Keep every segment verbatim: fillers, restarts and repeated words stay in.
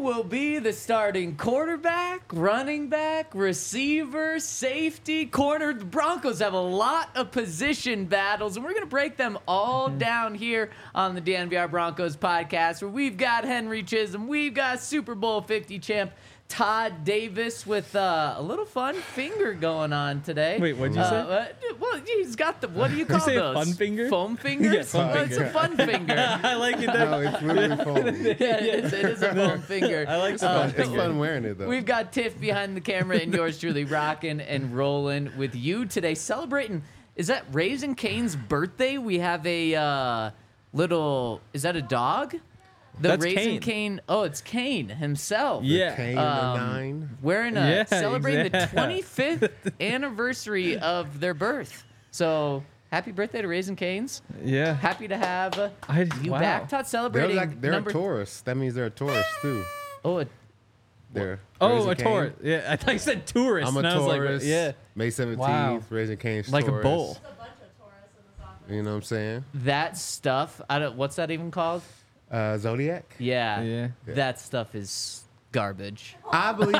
will be the starting quarterback, running back, receiver, safety, corner? The Broncos have a lot of position battles, and we're going to break them all mm-hmm. down here on the D N V R Broncos podcast, where we've got Henry Chisholm, we've got Super Bowl fifty champ Todd Davis with uh, a little fun finger going on today. Wait, what'd you uh, say? Uh, well, he's got the, what do you call Did you say those? Fun finger? Foam fingers? Yes, foam well, finger. It's a fun finger. I like it. No, it's literally foam. Yeah, it is, it is a foam finger. I like the Uh, fun It's finger. fun wearing it, though. We've got Tiff behind the camera and yours truly rocking and rolling with you today, celebrating. Is that Raising Cane's birthday? We have a uh, little. Is that a dog? The That's Raising Kane. Cane. Oh, it's Kane himself. Yeah. Kane Um, the nine. Wearing a Yeah, celebrating exact- the twenty-fifth anniversary of their birth. So happy birthday to Raising Cane's. Yeah. Happy to have uh, I- you wow. back, Todd. They're Celebrating like they're number. a Taurus. That means they're a Taurus too. Oh, a They're Oh, Raising a Cane. tourist. Yeah, I thought you said tourist. I'm a and I was Taurus. Like, yeah. May seventeenth, Wow. Raising Cane's Like a Taurus. bull. You know what I'm saying? that stuff. I don't. What's that even called? Uh, Zodiac. Yeah, Yeah. that stuff is garbage. I believe.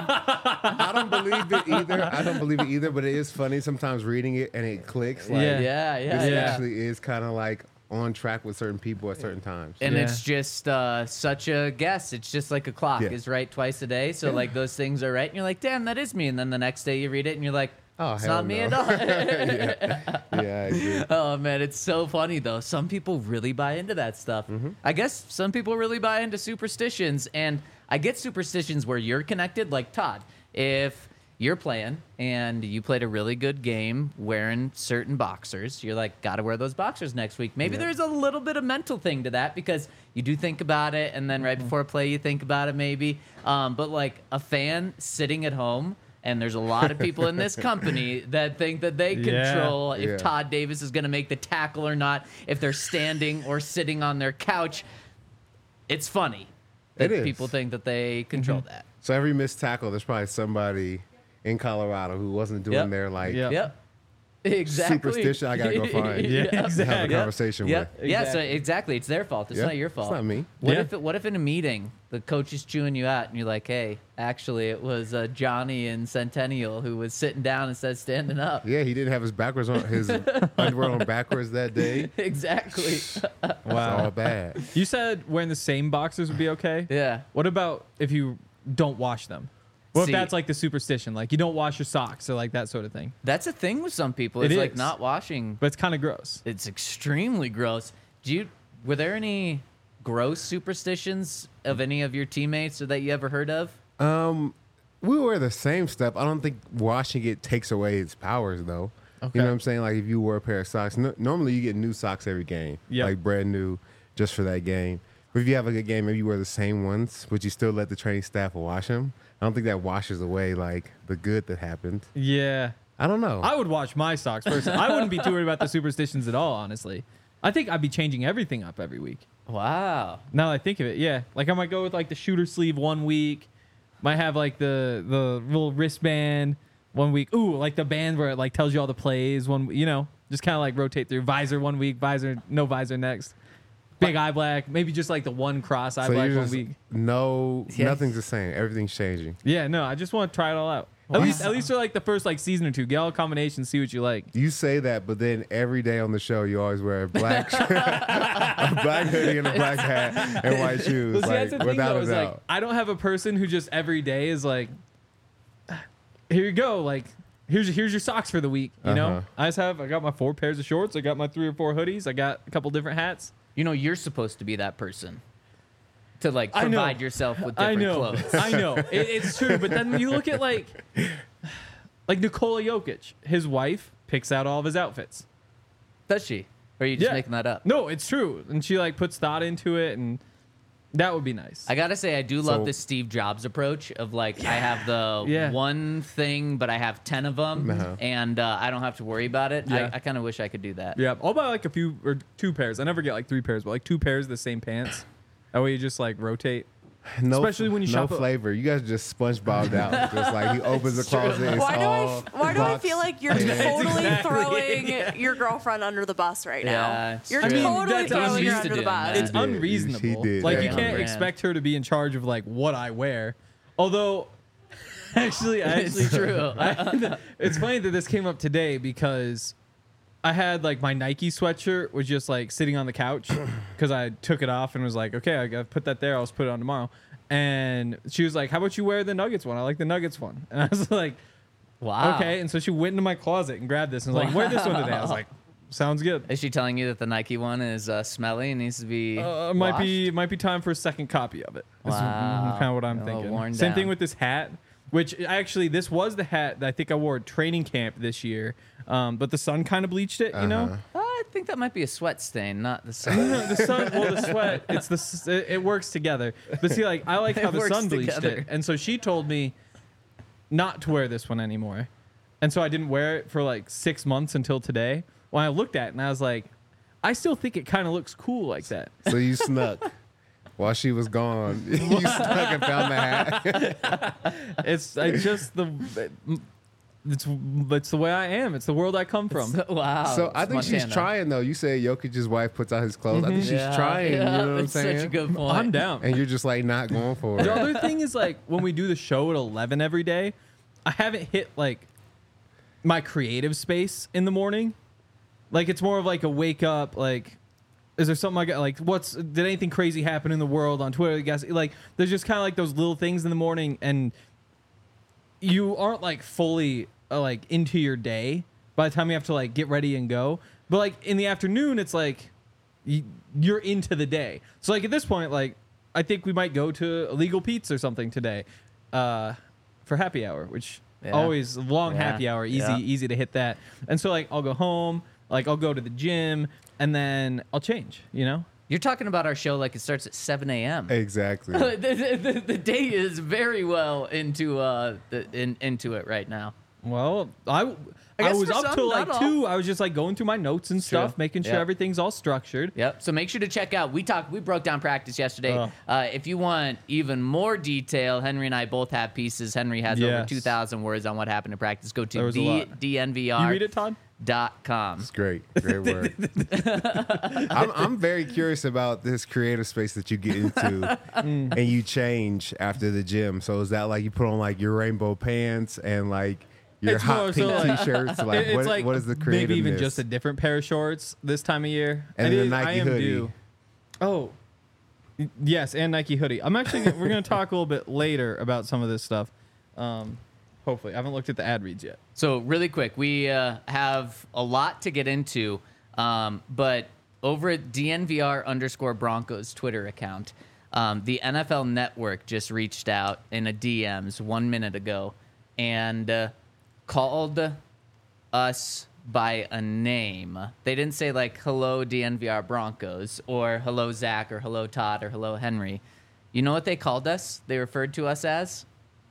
I don't believe it either. I don't believe it either. But it is funny sometimes reading it and it clicks. Like, Yeah. Yeah, yeah, This yeah. actually is kind of like on track with certain people at certain times. And Yeah. it's just uh, such a guess. It's just like a clock Yeah. is right twice a day. So like those things are right, and you're like, damn, that is me. And then the next day you read it, and you're like, Oh, it's hell not me no. at all. yeah. yeah, I agree. Oh man, it's so funny though. Some people really buy into that stuff. Mm-hmm. I guess some people really buy into superstitions, and I get superstitions where you're connected. Like Todd, if you're playing and you played a really good game wearing certain boxers, you're like, gotta wear those boxers next week. Maybe Yeah. there's a little bit of mental thing to that because you do think about it, and then right Mm-hmm. before play you think about it maybe. Um, but like a fan sitting at home. And there's a lot of people in this company that think that they Yeah. control if Yeah. Todd Davis is going to make the tackle or not, if they're standing or sitting on their couch. It's funny that It is. people think that they control Mm-hmm. that. So every missed tackle, there's probably somebody in Colorado who wasn't doing Yep. their like Yep. Yep. Exactly. superstition. I gotta go find. Yeah, Have a exactly. conversation Yep. with. Yeah, so Exactly. exactly. It's their fault. It's Yeah, not your it's fault. not me. What Yeah. if it, what if in a meeting the coach is chewing you out and you're like, hey, actually it was uh, Johnny in Centennial who was sitting down instead of standing up. Yeah, he didn't have his backwards on his underwear on backwards that day. Exactly. It's all Wow. bad. You said wearing the same boxers would be okay. Yeah. What about if you don't wash them? What See- if that's like the superstition? Like you don't wash your socks or like that sort of thing. That's a thing with some people. It It's like is. not washing. But it's kind of gross. It's extremely gross. Do you were there any gross superstitions of any of your teammates or that you ever heard of? Um, we wear the same stuff. I don't think washing it takes away its powers, though. Okay. You know what I'm saying? Like if you wear a pair of socks, no, normally you get new socks every game, Yep. like brand new, just for that game. But if you have a good game, maybe you wear the same ones, but you still let the training staff wash them. I don't think that washes away like the good that happened. Yeah. I don't know. I would wash my socks first. I wouldn't be too worried about the superstitions at all, honestly. I think I'd be changing everything up every week. Wow. Now that I think of it, yeah. Like I might go with like the shooter sleeve one week. Might have like the the little wristband one week. Ooh, like the band where it like tells you all the plays one. You know, just kind of like rotate through. Visor one week, visor no visor next. Big eye black, maybe just like the one cross eye so black you one just week. no, Yeah. nothing's the same. Everything's changing. Yeah, no, I just want to try it all out. At least, at least for like the first like season or two, get all the combinations, see what you like. You say that, but then every day on the show, you always wear a black, a black hoodie and a black hat and white shoes, Well, see, like, that's the thing without though. a Is doubt. like I don't have a person who just every day is like, here you go, like here's here's your socks for the week. You know, Uh-huh. I just have I got my four pairs of shorts, I got my three or four hoodies, I got a couple different hats. You know, you're supposed to be that person to like I know. provide yourself with I different know, clothes. I know, it, it's true. But then you look at like like Nikola Jokic, his wife picks out all of his outfits. Does she? Or are you just Yeah. making that up? No, it's true, and she like puts thought into it, and that would be nice. I gotta say, I do love So- the Steve Jobs approach of like I have the Yeah. one thing, but I have ten of them, Uh-huh. and uh, I don't have to worry about it. Yeah. I, I kind of wish I could do that. Yeah, I'll buy like a few or two pairs. I never get like three pairs, but like two pairs of the same pants. That way you just like rotate. No, Especially when you no shop at- flavor. You guys just SpongeBobbed out. Just like he opens the closet. It's Why do I? all f- Why do I box feel like you're pants. totally Exactly. throwing Yeah. your girlfriend under the bus right Yeah, now? it's You're true. I mean, totally that's- I'm throwing used her to under the doing bus. that. It's She did. unreasonable. She did. Like Very you on can't brand. expect her to be in charge of like what I wear. Although, actually, I actually It's true. I, it's funny that this came up today because I had like my Nike sweatshirt was just like sitting on the couch because I took it off and was like, okay, I gotta put that there. I'll just put it on tomorrow. And she was like, how about you wear the Nuggets one? I like the Nuggets one. And I was like, Wow. okay. And so she went into my closet and grabbed this and was like, wear this one today. I was like, sounds good. Is she telling you that the Nike one is uh, smelly and needs to be? Uh, might be washed? might be time for a second copy of it. That's Wow. kind of what I'm A little thinking. worn Same down. thing with this hat, which actually this was the hat that I think I wore at training camp this year. Um, but the sun kind of bleached it, you know. Uh-huh. Uh, I think that might be a sweat stain, not the sun. the sun, well, the sweat, it's the s- it, it works together. But see, like I like how It the works sun bleached together. it, and so she told me not to wear this one anymore, and so I didn't wear it for like six months until today. When I looked at it and I was like, I still think it kind of looks cool like that. So you snuck while she was gone. You snuck and found the hat. It's I just the it's it's the way I am. It's the world I come from. wow. So I it's think she's Montana. trying though. You say Jokic's wife puts out his clothes. I think she's Yeah, trying. yeah, you know what I'm that's saying? Such a good point. I'm down. And you're just like not going for The it. other thing is like when we do the show at eleven every day, I haven't hit like my creative space in the morning. Like it's more of like a wake up. Like, is there something I got? Like, what's did anything crazy happen in the world on Twitter? I guess like there's just kind of like those little things in the morning, and you aren't like fully uh, like into your day by the time you have to like get ready and go. But like in the afternoon, it's like y- you're into the day. So like at this point, like I think we might go to Illegal Pete's or something today uh, for happy hour, which Yeah. always long Yeah. happy hour, easy Yeah. easy to hit that. And so like I'll go home, like I'll go to the gym, and then I'll change. You know. You're talking about our show like it starts at seven a.m. Exactly. the, the, the, the day is very well into uh the, in, into it right now. Well, I I, guess was for up some, till not like all. two. I was just like going through my notes and stuff, True. making sure Yep. everything's all structured. Yep. So make sure to check out. We talked. We broke down practice yesterday. Oh. Uh, if you want even more detail, Henry and I both have pieces. Henry has over Yes. two thousand words on what happened in practice. Go There to was a the lot. D N V You R read it, Todd? dot com. It's great. Great work. I'm, I'm very curious about this creative space that you get into and you change after the gym. So is that like you put on like your rainbow pants and like your It's more hot so pink like- t-shirts? Like, It- it's what, like what is the maybe creative? even just a different pair of shorts this time of year. And I then the did- Nike I am hoodie. due. Oh, Y- yes, and Nike hoodie. I'm actually we're gonna talk a little bit later about some of this stuff. Um, hopefully, I haven't looked at the ad reads yet. So really quick, we uh, have a lot to get into, um, but over at D N V R underscore Broncos Twitter account, um, the N F L Network just reached out in a D Ms one minute ago and uh, called us by a name. They didn't say like hello D N V R Broncos or hello Zach or hello Todd or hello Henry. You know what they called us? They referred to us as?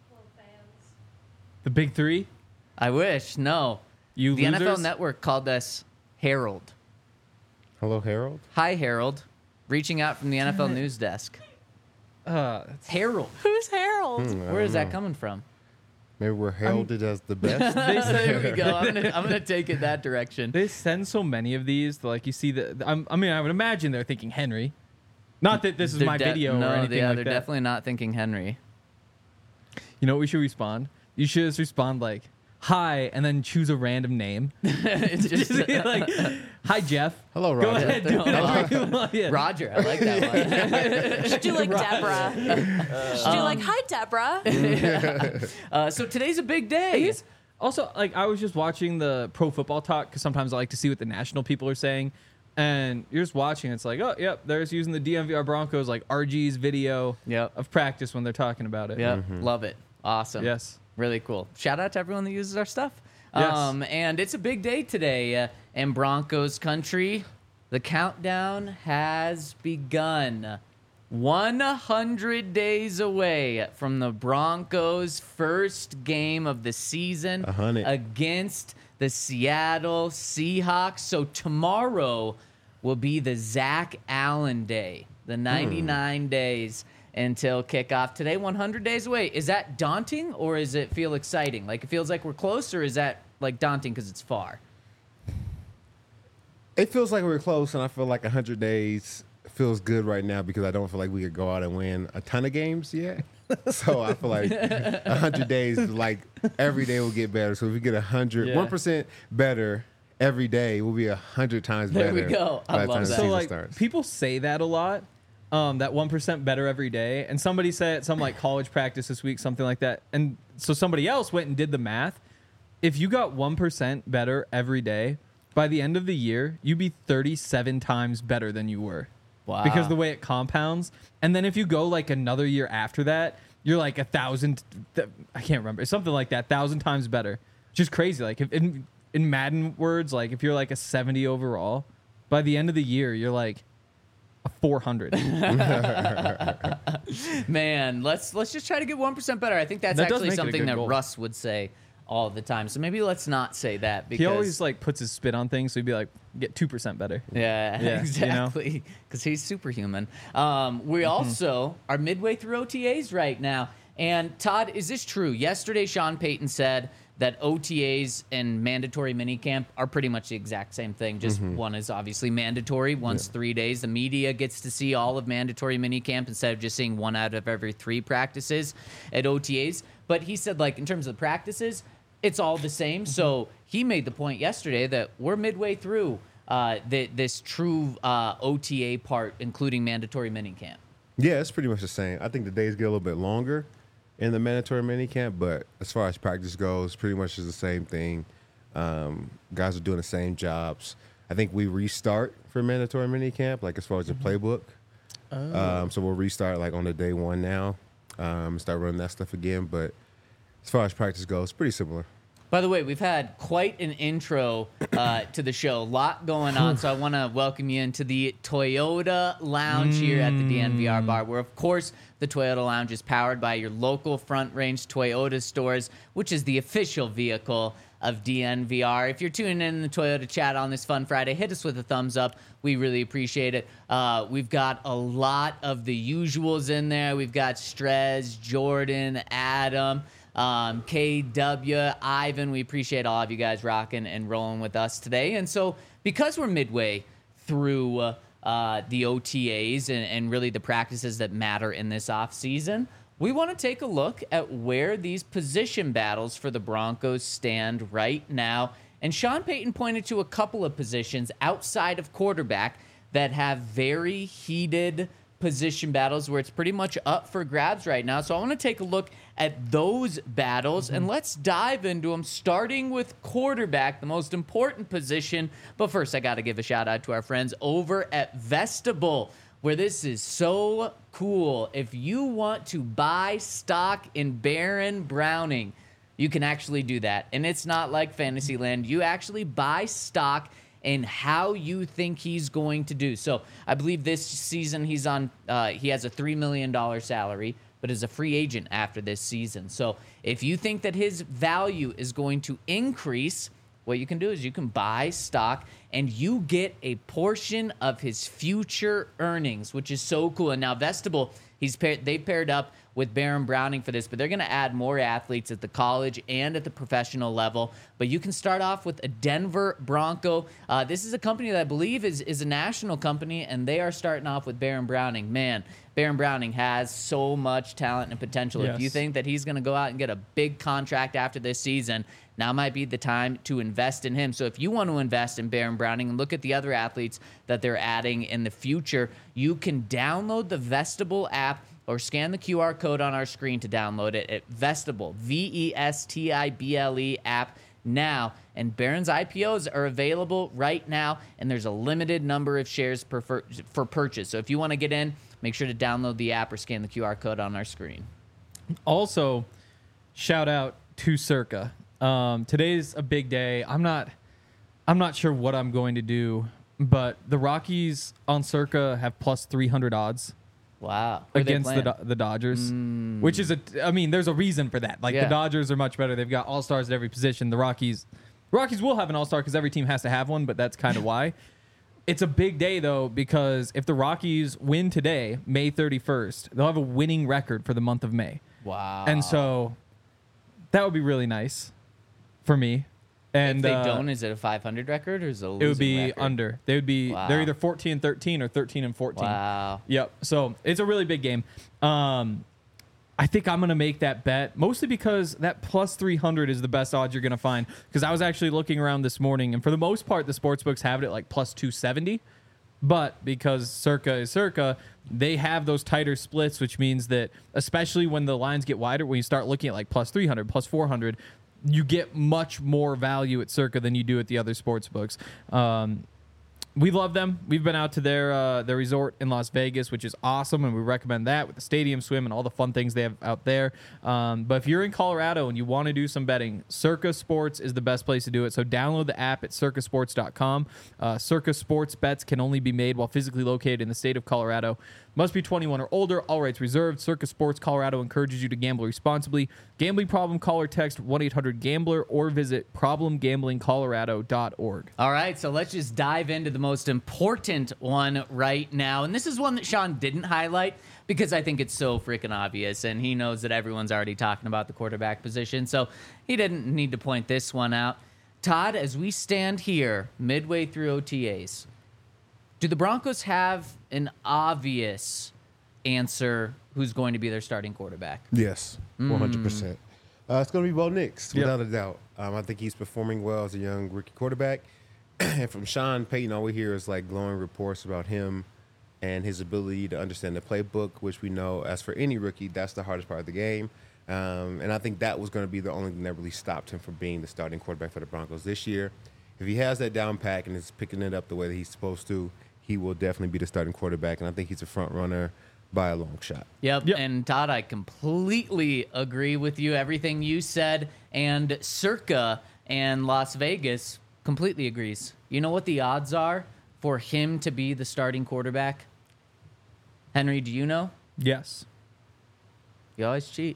The big three. I wish. No. You the N F L losers? Network called us Harold. Hello, Harold. Hi, Harold. Reaching out from the N F L news desk. Uh, Harold. Who's Harold? Hmm, I Where is don't that know. coming from? Maybe we're heralded as the best. There we go. I'm gonna, I'm gonna take it that direction. they send so many of these. That, like you see the. I'm, I mean, I would imagine they're thinking Henry. Not that this is They're my de- video no, or anything yeah, like they're that. definitely not thinking Henry. You know what we should respond? You should just respond like, hi, and then choose a random name. It's just Just be like, hi, Jeff. Hello, Go Roger. ahead, do whatever you want. Yeah. Roger. I like that Should do like Deborah. Should do like, hi, Deborah. one. Uh, so today's a big day. He's- Also, like I was just watching the Pro Football Talk because sometimes I like to see what the national people are saying, and you're just watching. It's like, oh, yep, there's using the D M V R Broncos like R G's video Yep. of practice when they're talking about it. Yep. Love it. Awesome. Yes. Really cool. Shout out to everyone that uses our stuff. Yes. Um, and it's a big day today uh, in Broncos country. The countdown has begun. one hundred days away from the Broncos' first game of the season A hundred. against the Seattle Seahawks. So tomorrow will be the Zach Allen day, the ninety-nine days. until kickoff today. one hundred days away. Is that daunting or does it feel exciting? Like it feels like we're close, or is that like daunting because it's far? It feels like we're close, and I feel like one hundred days feels good right now because I don't feel like we could go out and win a ton of games yet. So I feel like one hundred days, like every day will get better. So if we get one hundred, Yeah. one percent better every day, we'll be one hundred times There better. we go. I by the love time the that. So season like starts. people say that a lot, um, that one percent better every day. And somebody said at some like college practice this week, something like that. And so somebody else went and did the math. If you got one percent better every day, by the end of the year, you'd be thirty-seven times better than you were. Wow. Because the way it compounds. And then if you go like another year after that, you're like a thousand, th- I can't remember, something like that, thousand times better. Which is crazy. Like if in, in Madden words, like if you're like a seventy overall, by the end of the year, you're like a four hundred. Man, let's let's just try to get one percent better. I think that's That does actually make it a something good that goal. Russ would say all the time. So maybe let's not say that because He always like puts his spit on things, so he'd be like, get two percent better. yeah, Yeah, you know? exactly, because he's superhuman. Um, we Mm-hmm. also are midway through O T As right now. And Todd, is this true? Yesterday, Sean Payton said that O T As and mandatory minicamp are pretty much the exact same thing. Just one is obviously mandatory. One's three days. The media gets to see all of mandatory minicamp instead of just seeing one out of every three practices at O T As. But he said, like, in terms of the practices, it's all the same. So he made the point yesterday that we're midway through uh, the, this true uh, O T A part, including mandatory minicamp. Yeah, it's pretty much the same. I think the days get a little bit longer in the mandatory minicamp, but as far as practice goes, pretty much is the same thing. Um, guys are doing the same jobs. I think we restart for mandatory minicamp, like as far as the playbook. Um, so we'll restart like on the day one now, um, start running that stuff again. But as far as practice goes, pretty similar. By the way, we've had quite an intro uh, to the show. A lot going on, so I want to welcome you into the Toyota Lounge here at the D N V R bar, where, of course, the Toyota Lounge is powered by your local Front Range Toyota stores, which is the official vehicle of D N V R. If you're tuning in the Toyota chat on this fun Friday, hit us with a thumbs up. We really appreciate it. Uh, we've got a lot of the usuals in there. We've got Strez, Jordan, Adam, um, K W, Ivan. We appreciate all of you guys rocking and rolling with us today. And so because we're midway through uh, uh, the O T As and, and really the practices that matter in this offseason, we want to take a look at where these position battles for the Broncos stand right now. And Sean Payton pointed to a couple of positions outside of quarterback that have very heated position battles where it's pretty much up for grabs right now. So I want to take a look at those battles, mm-hmm. and let's dive into them, starting with quarterback, the most important position. But first, I got to give a shout out to our friends over at Vestibule, where this is so cool. If you want to buy stock in Baron Browning, you can actually do that. And it's not like Fantasyland. You actually buy stock in how you think he's going to do. So I believe this season he's on, uh, he has a three million dollars salary, but is a free agent after this season. So if you think that his value is going to increase, what you can do is you can buy stock and you get a portion of his future earnings, which is so cool. And now Vestibule, he's paired, they've paired up with Baron Browning for this, but they're going to add more athletes at the college and at the professional level. But you can start off with a Denver Bronco. Uh, this is a company that I believe is, is a national company, and they are starting off with Baron Browning. Man, Baron Browning has so much talent and potential. Yes. If you think that he's going to go out and get a big contract after this season, now might be the time to invest in him. So if you want to invest in Baron Browning and look at the other athletes that they're adding in the future, you can download the Vestibule app or scan the Q R code on our screen to download it at Vestibule, V E S T I B L E app now. And Baron's I P Os are available right now, and there's a limited number of shares per, for, for purchase. So if you want to get in, make sure to download the app or scan the Q R code on our screen. Also, shout out to Circa. Um, today's a big day. I'm not, I'm not sure what I'm going to do, but the Rockies on Circa have plus three hundred odds. Wow. Who are they Against the playing? Do- the Dodgers, which is a, I mean, there's a reason for that. Like Yeah. the Dodgers are much better. They've got all stars at every position. The Rockies, Rockies will have an all star because every team has to have one, but that's kind of why. It's a big day, though, because if the Rockies win today, May thirty-first, they'll have a winning record for the month of May. Wow. And so that would be really nice for me. And if they uh, don't, is it a five hundred record or is it a losing it would be record? under. They would be Wow. they're either fourteen and thirteen or thirteen and fourteen. Wow. Yep. So it's a really big game. Um, I think I'm gonna make that bet mostly because that plus three hundred is the best odds you're gonna find. Because I was actually looking around this morning, and for the most part, the sports books have it at like plus two seventy. But because Circa is Circa, they have those tighter splits, which means that especially when the lines get wider, when you start looking at like plus three hundred, plus four hundred, you get much more value at Circa than you do at the other sports books. Um, we love them. We've been out to their uh, their resort in Las Vegas, which is awesome, and we recommend that with the stadium swim and all the fun things they have out there. Um, but if you're in Colorado and you want to do some betting, Circa Sports is the best place to do it. So download the app at circa sports dot com. Uh, Circa Sports bets can only be made while physically located in the state of Colorado. Must be twenty-one or older. All rights reserved. Circa Sports Colorado encourages you to gamble responsibly. Gambling problem? Call or text one eight hundred gambler or visit problem gambling colorado dot org. All right, so let's just dive into the most important one right now. And this is one that Sean didn't highlight because I think it's so freaking obvious, and he knows that everyone's already talking about the quarterback position, so he didn't need to point this one out. Todd, as we stand here midway through O T As, do the Broncos have an obvious answer who's going to be their starting quarterback? Yes, one hundred percent. Uh, it's going to be Bo Nix, Yep. without a doubt. Um, I think he's performing well as a young rookie quarterback. And from Sean Payton, all we hear is like glowing reports about him and his ability to understand the playbook, which we know, as for any rookie, that's the hardest part of the game. Um, and I think that was going to be the only thing that really stopped him from being the starting quarterback for the Broncos this year. If he has that down pack and is picking it up the way that he's supposed to, he will definitely be the starting quarterback. And I think he's a front runner by a long shot. Yep. Yep. And Todd, I completely agree with you. Everything you said, and Circa and Las Vegas completely agrees. You know what the odds are for him to be the starting quarterback? Henry, do you know? Yes. You always cheat.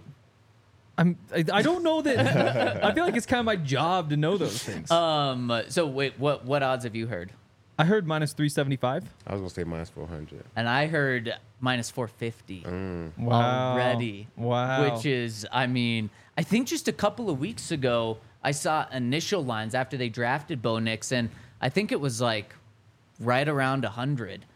I'm. I, I don't know that. I feel like it's kind of my job to know those things. Um. So wait, what what odds have you heard? I heard minus three seventy-five. I was going to say minus four hundred. And I heard minus four fifty Wow. already. Wow. Which is, I mean, I think just a couple of weeks ago, I saw initial lines after they drafted Bo Nix, and I think it was like right around one hundred.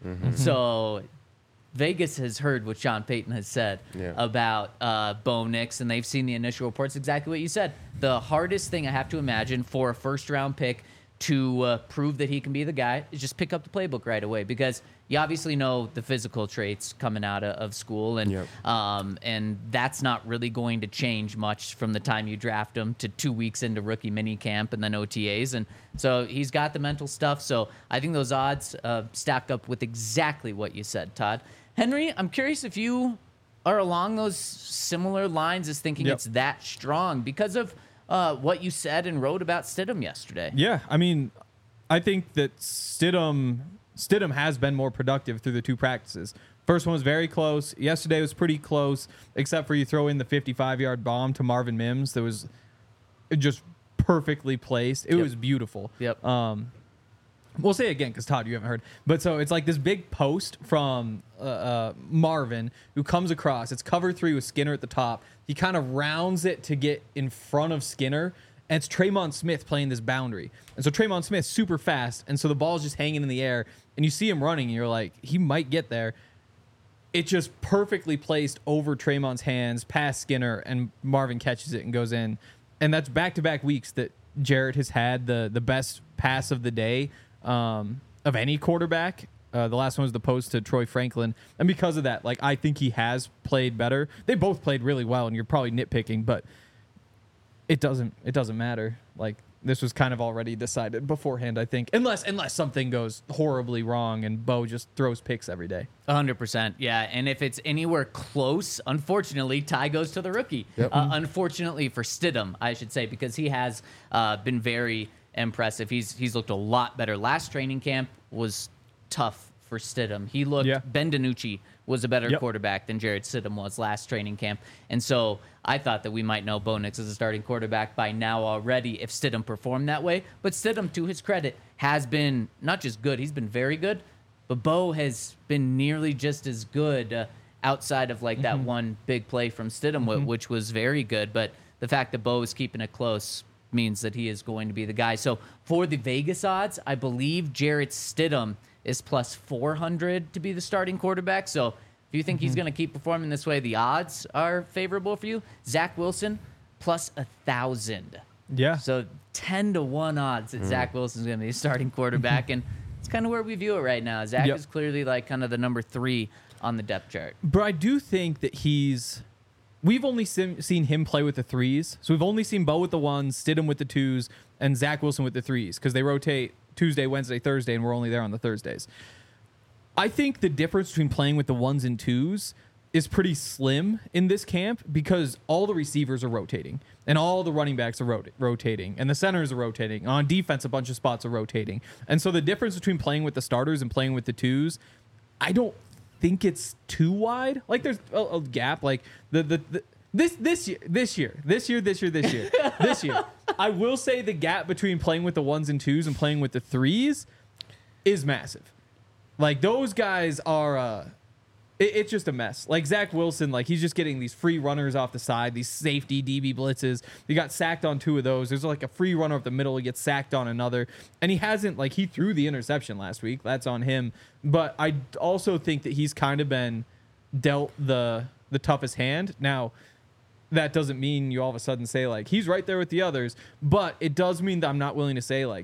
So Vegas has heard what Sean Payton has said Yeah. about uh, Bo Nix, and they've seen the initial reports, exactly what you said. The hardest thing I have to imagine for a first-round pick to uh, prove that he can be the guy is just pick up the playbook right away, because you obviously know the physical traits coming out of, of school, and Yep. um, and that's not really going to change much from the time you draft him to two weeks into rookie mini camp and then O T As, and so he's got the mental stuff. So I think those odds uh, stack up with exactly what you said, Todd. Henry, I'm curious if you are along those similar lines as thinking Yep. it's that strong because of uh, what you said and wrote about Stidham yesterday. Yeah, I mean, I think that Stidham Stidham has been more productive through the two practices. First one was very close. Yesterday was pretty close, except for you throw in the fifty-five-yard bomb to Marvin Mims that was just perfectly placed. It Yep. was beautiful. Yep. Um, we'll say it again because Todd, you haven't heard. But so it's like this big post from uh, uh, Marvin who comes across. It's cover three with Skinner at the top. He kind of rounds it to get in front of Skinner. And it's Traymon Smith playing this boundary. And so Traymon Smith's super fast. And so the ball's just hanging in the air. And you see him running. And you're like, he might get there. It just perfectly placed over Traymon's hands, past Skinner. And Marvin catches it and goes in. And that's back-to-back weeks that Jarrett has had the, the best pass of the day um, of any quarterback. Uh, the last one was the post to Troy Franklin. And because of that, like, I think he has played better. They both played really well. And you're probably nitpicking. But It doesn't. It doesn't matter. Like, this was kind of already decided beforehand, I think, unless unless something goes horribly wrong and Bo just throws picks every day. one hundred percent, yeah. And if it's anywhere close, unfortunately, tie goes to the rookie. Yep. Uh, unfortunately for Stidham, I should say, because he has uh, been very impressive. He's he's looked a lot better. Last training camp was tough for Stidham. He looked, Yeah. Ben DiNucci was a better Yep. quarterback than Jared Stidham was last training camp. And so I thought that we might know Bo Nix as a starting quarterback by now already if Stidham performed that way. But Stidham, to his credit, has been not just good, he's been very good, but Bo has been nearly just as good uh, outside of like that Mm-hmm. one big play from Stidham, wh- which was very good. But the fact that Bo is keeping it close means that he is going to be the guy. So for the Vegas odds, I believe Jarrett Stidham is plus four hundred to be the starting quarterback. So if you think he's going to keep performing this way, the odds are favorable for you. Zach Wilson plus a thousand. Yeah. So ten to one odds that Zach Wilson's going to be a starting quarterback, and it's kind of where we view it right now. Zach Yep. is clearly like kind of the number three on the depth chart. But I do think that he's. We've only seen, seen him play with the threes. So we've only seen Bo with the ones, Stidham with the twos, and Zach Wilson with the threes because they rotate Tuesday, Wednesday, Thursday, and we're only there on the Thursdays. I think the difference between playing with the ones and twos is pretty slim in this camp because all the receivers are rotating and all the running backs are rot- rotating and the centers are rotating. On defense, a bunch of spots are rotating. And so the difference between playing with the starters and playing with the twos, I don't think it's too wide. Like there's a, a gap. Like the, the the this this year this year this year this year this year this year. I will say the gap between playing with the ones and twos and playing with the threes is massive. Like those guys are. Uh, it, it's just a mess. Like Zach Wilson, like he's just getting these free runners off the side, these safety D B blitzes. He got sacked on two of those. There's like a free runner up the middle. He gets sacked on another, and he hasn't like he threw the interception last week. That's on him. But I also think that he's kind of been dealt the the toughest hand. Now, that doesn't mean you all of a sudden say like he's right there with the others, but it does mean that I'm not willing to say like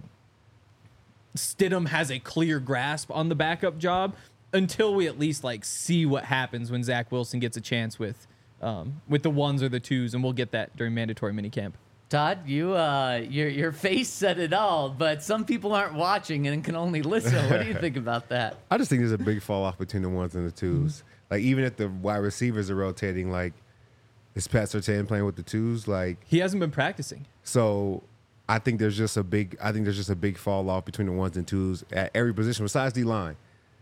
Stidham has a clear grasp on the backup job until we at least like see what happens when Zach Wilson gets a chance with um, with the ones or the twos, and we'll get that during mandatory minicamp. Todd, you uh, your your face said it all, but some people aren't watching and can only listen. What do you think about that? I just think there's a big fall off between the ones and the twos. Like even if the wide receivers are rotating, like is Pat Surtain playing with the twos? Like He hasn't been practicing. so, I think there's just a big. I think there's just a big fall off between the ones and twos at every position besides D line.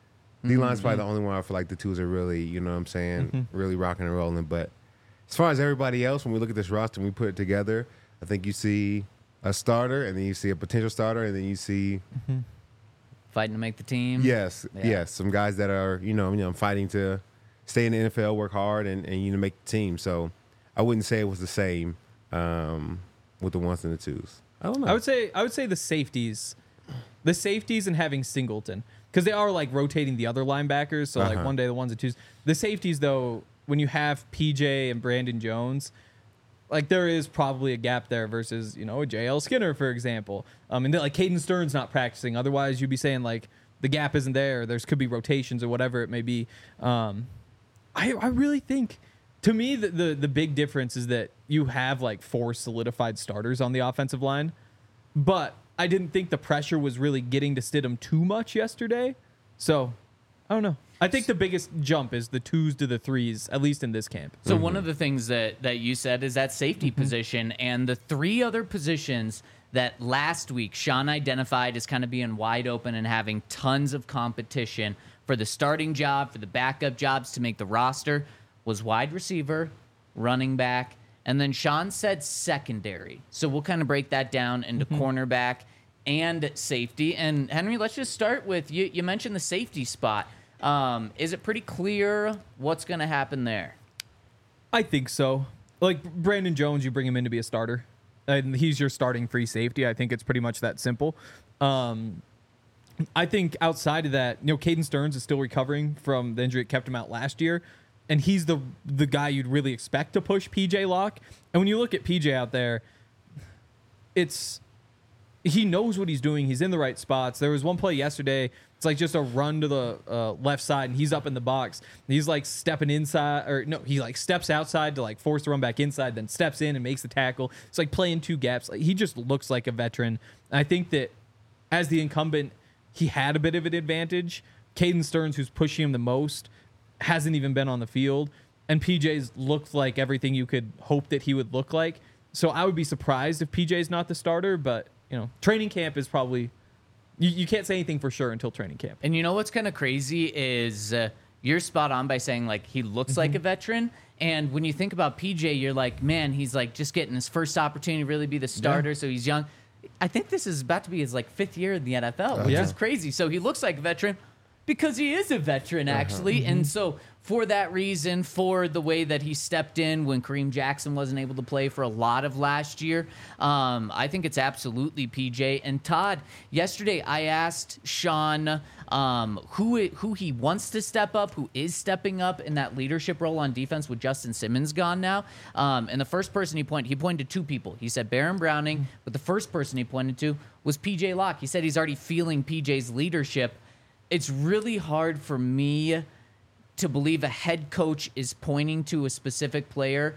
D line's probably the only one I feel like the twos are really, you know what I'm saying, really rocking and rolling. But as far as everybody else, when we look at this roster and we put it together, I think you see a starter, and then you see a potential starter, and then you see Fighting to make the team. yes, Yeah. yes, some guys that are you know you know fighting to stay in the N F L, work hard, and, and you know make the team. So I wouldn't say it was the same um, with the ones and the twos. I don't know. I would say I would say the safeties, the safeties, and having Singleton because they are like rotating the other linebackers. So like Uh-huh. one day the ones and twos. The safeties though, when you have P J and Brandon Jones, like there is probably a gap there versus you know J L Skinner for example. Um, and then like Caden Stern's not practicing. Otherwise you'd be saying like the gap isn't there. There's could be rotations or whatever it may be. Um, I I really think. To me, the, the the big difference is that you have like four solidified starters on the offensive line, but I didn't think the pressure was really getting to Stidham too much yesterday. So, I don't know. I think the biggest jump is the twos to the threes, at least in this camp. So one of the things that, that you said is that safety position, and the three other positions that last week Sean identified as kind of being wide open and having tons of competition for the starting job, for the backup jobs to make the roster was wide receiver, running back, and then Sean said secondary. So we'll kind of break that down into cornerback and safety. And Henry, let's just start with you. You mentioned the safety spot. Um, is it pretty clear what's going to happen there? I think so. Like Brandon Jones, you bring him in to be a starter, and he's your starting free safety. I think it's pretty much that simple. Um, I think outside of that, you know, Caden Stearns is still recovering from the injury that kept him out last year. And he's the the guy you'd really expect to push P J Locke. And when you look at P J out there, it's he knows what he's doing. He's in the right spots. There was one play yesterday. It's like just a run to the uh, left side, and he's up in the box. He's like stepping inside, or no, he like steps outside to like force the run back inside, then steps in and makes the tackle. It's like playing two gaps. Like he just looks like a veteran. And I think that as the incumbent, he had a bit of an advantage. Caden Stearns, who's pushing him the most, hasn't even been on the field, and P J's looked like everything you could hope that he would look like. So I would be surprised if P J's not the starter, but you know, training camp is probably you, you can't say anything for sure until training camp. And you know what's kind of crazy is uh, you're spot on by saying like he looks like a veteran. And when you think about P J, you're like, man, he's like just getting his first opportunity to really be the starter. Yeah. So he's young. I think this is about to be his like fifth year in the N F L, which Yeah. is crazy. So he looks like a veteran because he is a veteran, actually. Uh-huh. And so for that reason, for the way that he stepped in when Kareem Jackson wasn't able to play for a lot of last year, um, I think it's absolutely P J. And Todd, yesterday I asked Sean um, who it, who he wants to step up, who is stepping up in that leadership role on defense with Justin Simmons gone now. Um, and the first person he pointed, he pointed to two people. He said Baron Browning, but the first person he pointed to was P J Locke. He said he's already feeling P J's leadership. It's really hard for me to believe a head coach is pointing to a specific player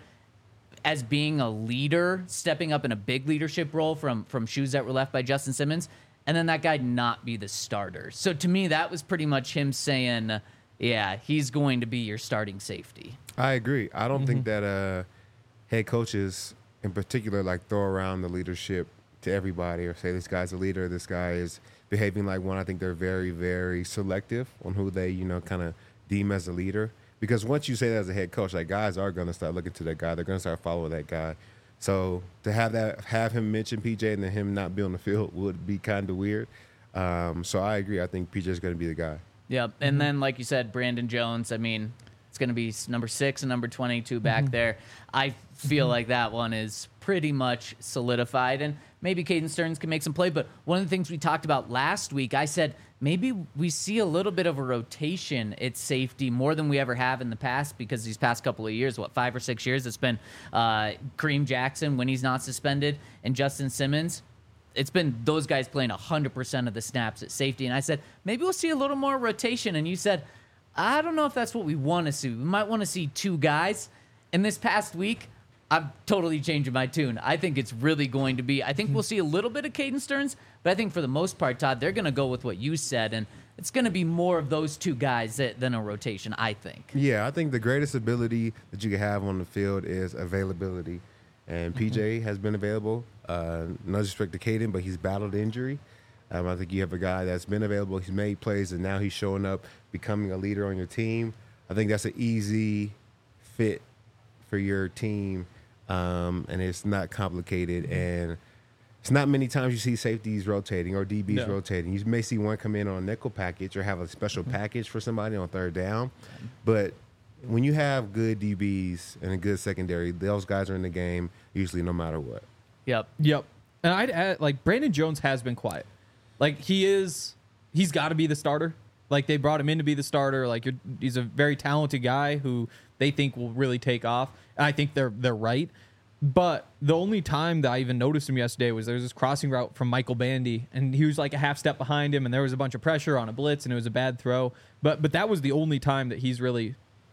as being a leader, stepping up in a big leadership role from, from shoes that were left by Justin Simmons, and then that guy not be the starter. So to me, that was pretty much him saying, yeah, he's going to be your starting safety. I agree. I don't mm-hmm. think that uh, head coaches in particular like throw around the leadership to everybody or say this guy's a leader, this guy is behaving like one. I think they're very, very selective on who they, you know, kind of deem as a leader, because once you say that as a head coach, like guys are going to start looking to that guy. They're going to start following that guy. So to have that, have him mention P J and then him not be on the field would be kind of weird. Um, so I agree. I think P J is going to be the guy. Yep. And mm-hmm. then, like you said, Brandon Jones, I mean, it's going to be number six and number twenty-two back mm-hmm. there. I feel mm-hmm. like that one is pretty much solidified. And maybe Caden Stearns can make some play. But one of the things we talked about last week, I said maybe we see a little bit of a rotation at safety more than we ever have in the past, because these past couple of years, what, five or six years, it's been uh, Kareem Jackson when he's not suspended and Justin Simmons. It's been those guys playing one hundred percent of the snaps at safety. And I said, maybe we'll see a little more rotation. And you said, I don't know if that's what we want to see. We might want to see two guys. And this past week, I'm totally changing my tune. I think it's really going to be, I think we'll see a little bit of Caden Stearns, but I think for the most part, Todd, they're going to go with what you said, and it's going to be more of those two guys that, than a rotation, I think. Yeah, I think the greatest ability that you can have on the field is availability, and P J mm-hmm. has been available. Uh, no disrespect to Caden, but he's battled injury. Um, I think you have a guy that's been available, he's made plays, and now he's showing up, becoming a leader on your team. I think that's an easy fit for your team. Um, and it's not complicated, and it's not many times you see safeties rotating or D Bs no. rotating. You may see one come in on a nickel package or have a special mm-hmm. package for somebody on third down. But when you have good D Bs and a good secondary, those guys are in the game usually no matter what. Yep. Yep. And I'd add, like, Brandon Jones has been quiet. Like, he is, he's got to be the starter. Like, they brought him in to be the starter. Like, you're, he's a very talented guy who they think will really take off. And I think they're they're right. But the only time that I even noticed him yesterday was there was this crossing route from Michael Bandy, and he was like a half step behind him, and there was a bunch of pressure on a blitz, and it was a bad throw. But but that was the only time that he's really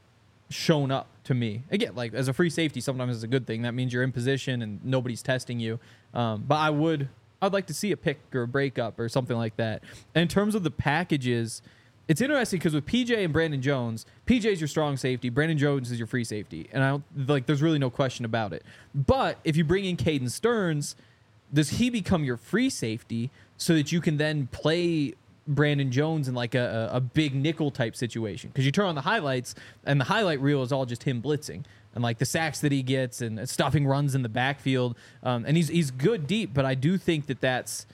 shown up to me. Again, like, as a free safety, sometimes it's a good thing. That means you're in position and nobody's testing you. Um, but I would I'd like to see a pick or a breakup or something like that. And in terms of the packages, it's interesting because with P J and Brandon Jones, P J's your strong safety, Brandon Jones is your free safety, and I don't like. There's really no question about it. But if you bring in Caden Stearns, does he become your free safety so that you can then play Brandon Jones in like a, a, a big nickel type situation? Because you turn on the highlights, and the highlight reel is all just him blitzing and like the sacks that he gets and stuffing runs in the backfield. Um, and he's he's good deep, but I do think that that's.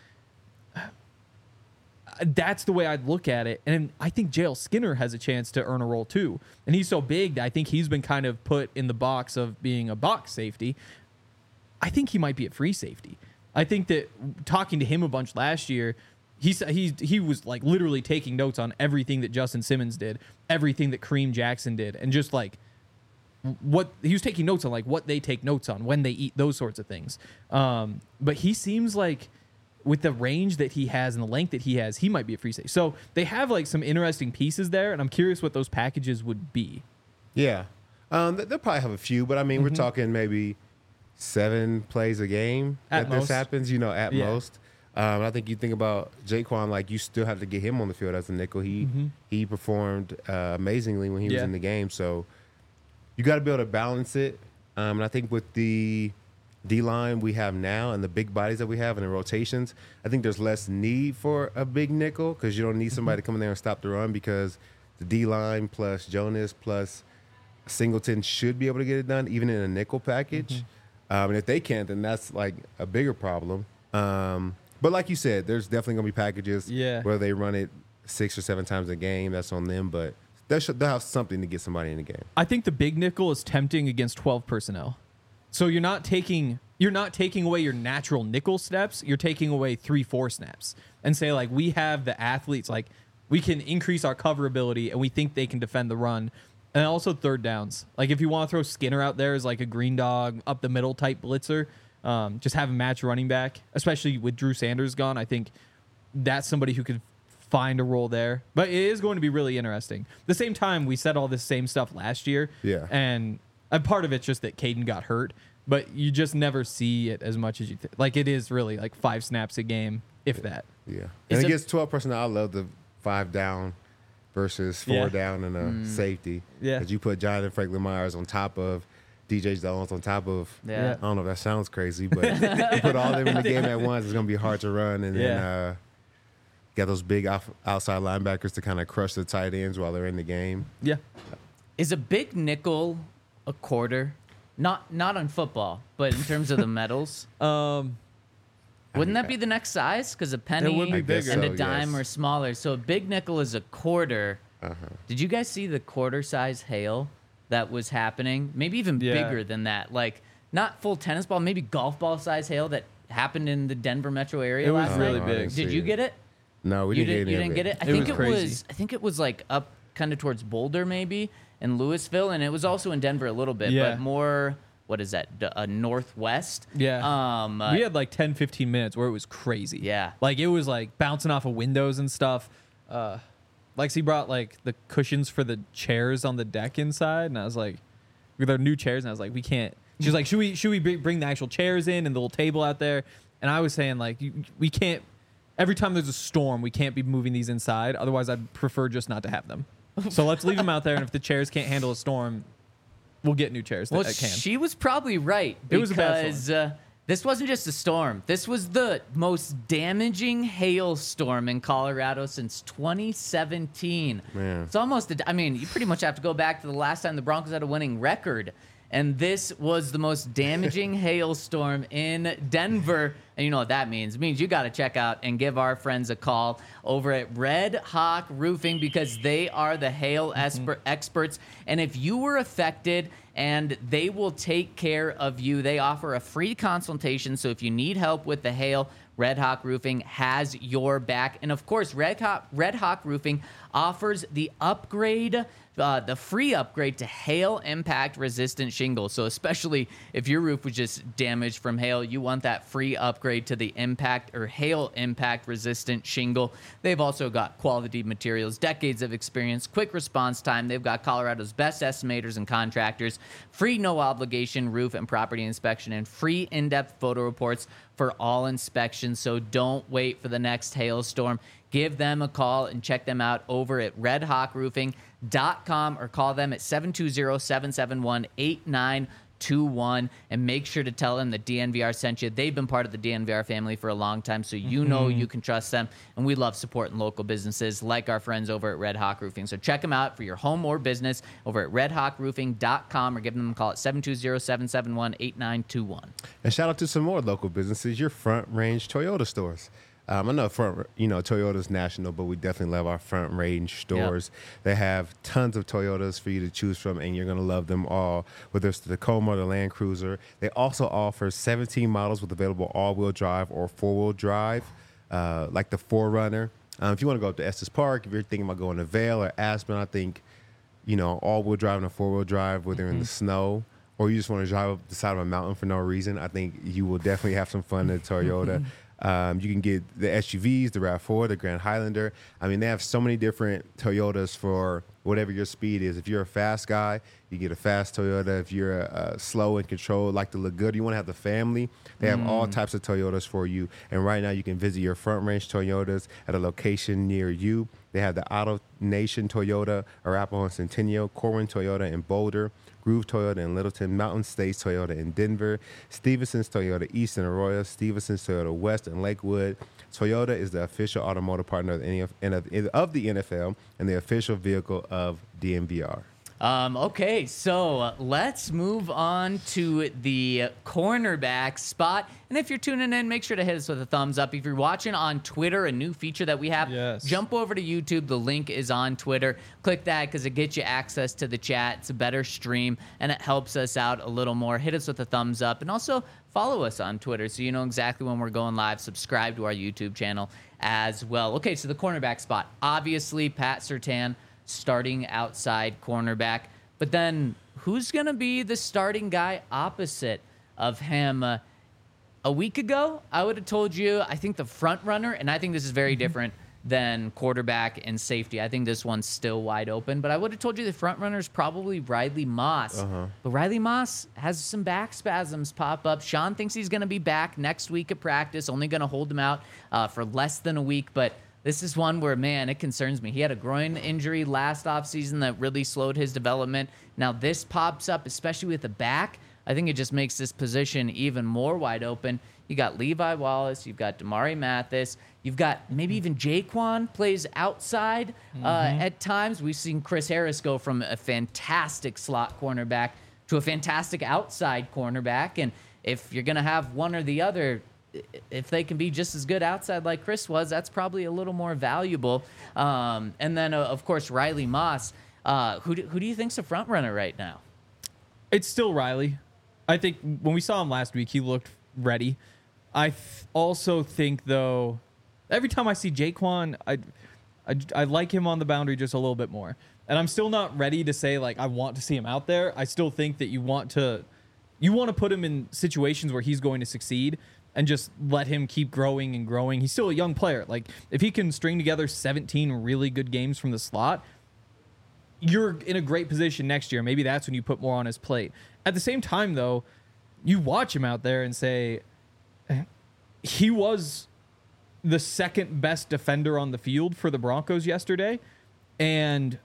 That's the way I'd look at it. And I think J L Skinner has a chance to earn a role too. And he's so big that I think he's been kind of put in the box of being a box safety. I think he might be a free safety. I think that talking to him a bunch last year, he he he was like literally taking notes on everything that Justin Simmons did, everything that Kareem Jackson did, and just like what he was taking notes on, like what they take notes on when they eat, those sorts of things. Um, but he seems like, with the range that he has and the length that he has, he might be a free safety. So they have like some interesting pieces there, and I'm curious what those packages would be. Yeah. Um, they'll probably have a few, but I mean, mm-hmm. we're talking maybe seven plays a game at that most. This happens, you know, at yeah. most. Um, I think you think about Jaquan, like you still have to get him on the field as a nickel. He mm-hmm. he performed uh, amazingly when he was yeah. in the game. So you got to be able to balance it. Um, and I think with the D-line we have now and the big bodies that we have and the rotations, I think there's less need for a big nickel because you don't need somebody mm-hmm. to come in there and stop the run, because the D-line plus Jonas plus Singleton should be able to get it done even in a nickel package. Mm-hmm. Um, and if they can't, then that's like a bigger problem. Um, but like you said, there's definitely gonna be packages. Yeah. Whether they run it six or seven times a game, that's on them. But they should they'll have something to get somebody in the game. I think the big nickel is tempting against twelve personnel. So you're not taking you're not taking away your natural nickel snaps. You're taking away three four snaps and say like we have the athletes like we can increase our coverability and we think they can defend the run. And also third downs. Like if you want to throw Skinner out there as like a green dog up the middle type blitzer, um, just have a match running back, especially with Drew Sanders gone. I think that's somebody who could find a role there. But it is going to be really interesting. At the same time, we said all this same stuff last year. Yeah. And a part of it's just that Caden got hurt, but you just never see it as much as you think. Like it is really like five snaps a game, if that. Yeah. Is And it- against twelve personnel, I love the five down versus four Yeah. down and a Mm. safety. Yeah. That you put Jonathan Franklin Myers on top of D J Jones on top of. Yeah. I don't know if that sounds crazy, but you put all of them in the game at once, it's gonna be hard to run. And then Yeah. uh, got those big off, outside linebackers to kind of crush the tight ends while they're in the game. Yeah. Is a big nickel a quarter? Not not on football, but in terms of the medals. Um, Wouldn't that be the next size? Because a penny would be I guess and so, a dime yes. are smaller. So a big nickel is a quarter. Uh-huh. Did you guys see the quarter size hail that was happening? Maybe even Yeah. bigger than that. Like not full tennis ball, maybe golf ball size hail that happened in the Denver metro area It was last really night. big. I didn't Did see you it. get it? No, we you didn't didn't, get you any didn't of get it. I It think was it crazy. was. I think it was like up kind of towards Boulder, maybe in Louisville, and it was also in Denver a little bit, Yeah. but more. What is that? D- uh, northwest. Yeah. Um. uh, we had like ten, fifteen minutes where it was crazy. Yeah. Like it was like bouncing off of windows and stuff. Uh, Lexi brought like the cushions for the chairs on the deck inside. And I was like, with our new chairs. And I was like, we can't. She was like, should we, should we bring bring the actual chairs in and the little table out there? And I was saying like, you, we can't, every time there's a storm, we can't be moving these inside. Otherwise I'd prefer just not to have them. So let's leave them out there. And if the chairs can't handle a storm, we'll get new chairs that Well, that can. she was probably right It was a bad because uh, this wasn't just a storm. This was the most damaging hailstorm in Colorado since twenty seventeen. Man. It's almost, a, I mean, you pretty much have to go back to the last time the Broncos had a winning record. And this was the most damaging hailstorm in Denver. And you know what that means. It means you got to check out and give our friends a call over at Red Hawk Roofing because they are the hail esper- experts. And if you were affected, and they will take care of you. They offer a free consultation. So if you need help with the hail, Red Hawk Roofing has your back. And of course, Red Hawk, Red Hawk Roofing offers the upgrade, uh, the free upgrade to hail impact resistant shingles. So especially if your roof was just damaged from hail, you want that free upgrade to the impact or hail impact resistant shingle. They've also got quality materials, decades of experience, quick response time. They've got Colorado's best estimators and contractors, free no obligation roof and property inspection, and free in-depth photo reports for all inspections. So don't wait for the next hailstorm. Give them a call and check them out over at red hawk roofing dot com or call them at seven two zero, seven seven one, eight nine two one and make sure to tell them that D N V R sent you. They've been part of the D N V R family for a long time, so you know you can trust them. And we love supporting local businesses like our friends over at Red Hawk Roofing. So check them out for your home or business over at red hawk roofing dot com or give them a call at seven two zero, seven seven one, eight nine two one. And shout out to some more local businesses, your Front Range Toyota stores. Um, I know front, you know, Toyota's national, but we definitely love our Front Range stores. They have tons of Toyotas for you to choose from, and you're going to love them all, whether it's the Tacoma or the Land Cruiser. They also offer seventeen models with available all-wheel drive or four-wheel drive, uh, like the four runner. Um, if you want to go up to Estes Park, if you're thinking about going to Vail or Aspen, I think, you know, all-wheel drive and a four-wheel drive, whether mm-hmm. in the snow, or you just want to drive up the side of a mountain for no reason, I think you will definitely have some fun in Toyota. Um, you can get the S U Vs, the RAV four, the Grand Highlander. I mean, they have so many different Toyotas for whatever your speed is. If you're a fast guy, you get a fast Toyota. If you're uh, slow and controlled, like to look good, you want to have the family, they have mm. all types of Toyotas for you. And right now you can visit your Front Range Toyotas at a location near you. They have the Auto Nation Toyota, Arapahoe and Centennial, Corwin Toyota in Boulder, Groove Toyota in Littleton, Mountain States Toyota in Denver, Stevenson's Toyota East in Arroyo, Stevenson's Toyota West in Lakewood. Toyota is the official automotive partner of the N F L, of the N F L and the official vehicle of D N V R. Um, okay, so uh, let's move on to the cornerback spot. And if you're tuning in, make sure to hit us with a thumbs up. If you're watching on Twitter, a new feature that we have, Yes. jump over to YouTube. The link is on Twitter. Click that because it gets you access to the chat. It's a better stream, and it helps us out a little more. Hit us with a thumbs up, and also follow us on Twitter so you know exactly when we're going live. Subscribe to our YouTube channel as well. Okay, so the cornerback spot. Obviously, Pat Surtain, starting outside cornerback. But then who's going to be the starting guy opposite of him? Uh, a week ago, I would have told you, I think the front runner, and I think this is very different than quarterback and safety. I think this one's still wide open, but I would have told you the front runner is probably Riley Moss. Uh-huh. But Riley Moss has some back spasms pop up. Sean thinks he's going to be back next week at practice, only going to hold him out uh, for less than a week, but this is one where, man, it concerns me. He had a groin injury last offseason that really slowed his development. Now this pops up, especially with the back. I think it just makes this position even more wide open. You got Levi Wallace. You've got Damari Mathis. You've got maybe even Jaquan plays outside uh, mm-hmm. at times. We've seen Chris Harris go from a fantastic slot cornerback to a fantastic outside cornerback. And if you're going to have one or the other, if they can be just as good outside like Chris was, that's probably a little more valuable. Um, and then, uh, of course, Riley Moss. Uh, who, do, who do you think's a front runner right now? It's still Riley. I think when we saw him last week, he looked ready. I th- also think, though, every time I see Jaquan, I, I, I like him on the boundary just a little bit more. And I'm still not ready to say, like, I want to see him out there. I still think that you want to you want to put him in situations where he's going to succeed and just let him keep growing and growing. He's still a young player. Like, if he can string together seventeen really good games from the slot, you're in a great position next year. Maybe that's when you put more on his plate. At the same time, though, you watch him out there and say, he was the second best defender on the field for the Broncos yesterday. And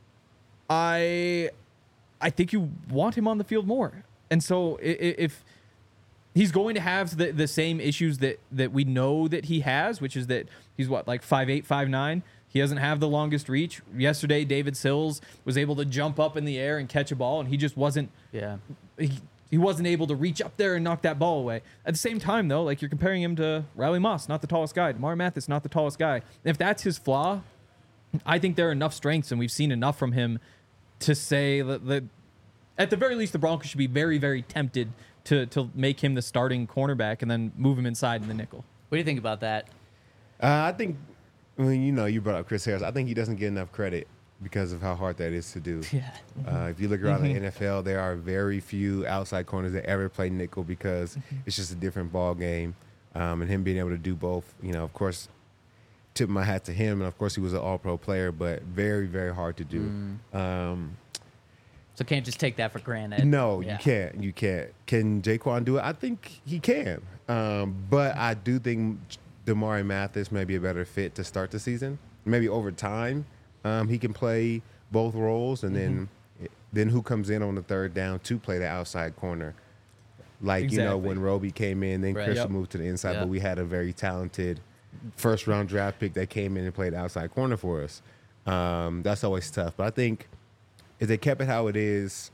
I I think you want him on the field more. And so if he's going to have the, the same issues that, that we know that he has, which is that he's what, like five eight, five nine. He doesn't have the longest reach. Yesterday, David Sills was able to jump up in the air and catch a ball, and he just wasn't. Yeah. He, he wasn't able to reach up there and knock that ball away. At the same time, though, like, you're comparing him to Riley Moss, not the tallest guy. Damari Mathis, not the tallest guy. If that's his flaw, I think there are enough strengths, and we've seen enough from him to say that, that at the very least, the Broncos should be very, very tempted to to make him the starting cornerback and then move him inside in the nickel. What do you think about that? Uh, I think. I mean, you know, you brought up Chris Harris. I think he doesn't get enough credit because of how hard that is to do. Yeah. Uh, if you look around mm-hmm. the N F L, there are very few outside corners that ever play nickel because mm-hmm. it's just a different ball game. Um, and him being able to do both, you know, of course, tip my hat to him. And, of course, he was an all-pro player, but very, very hard to do. Mm. Um, so can't just take that for granted. No, yeah. you can't. You can't. Can Jaquan do it? I think he can. Um, but I do think Damari Mathis may be a better fit to start the season. Maybe over time, um, he can play both roles, and mm-hmm. then then who comes in on the third down to play the outside corner? Like, exactly. you know, when Roby came in, then right. Christian yep. moved to the inside, yep. but we had a very talented first-round draft pick that came in and played outside corner for us. Um, that's always tough. But I think if they kept it how it is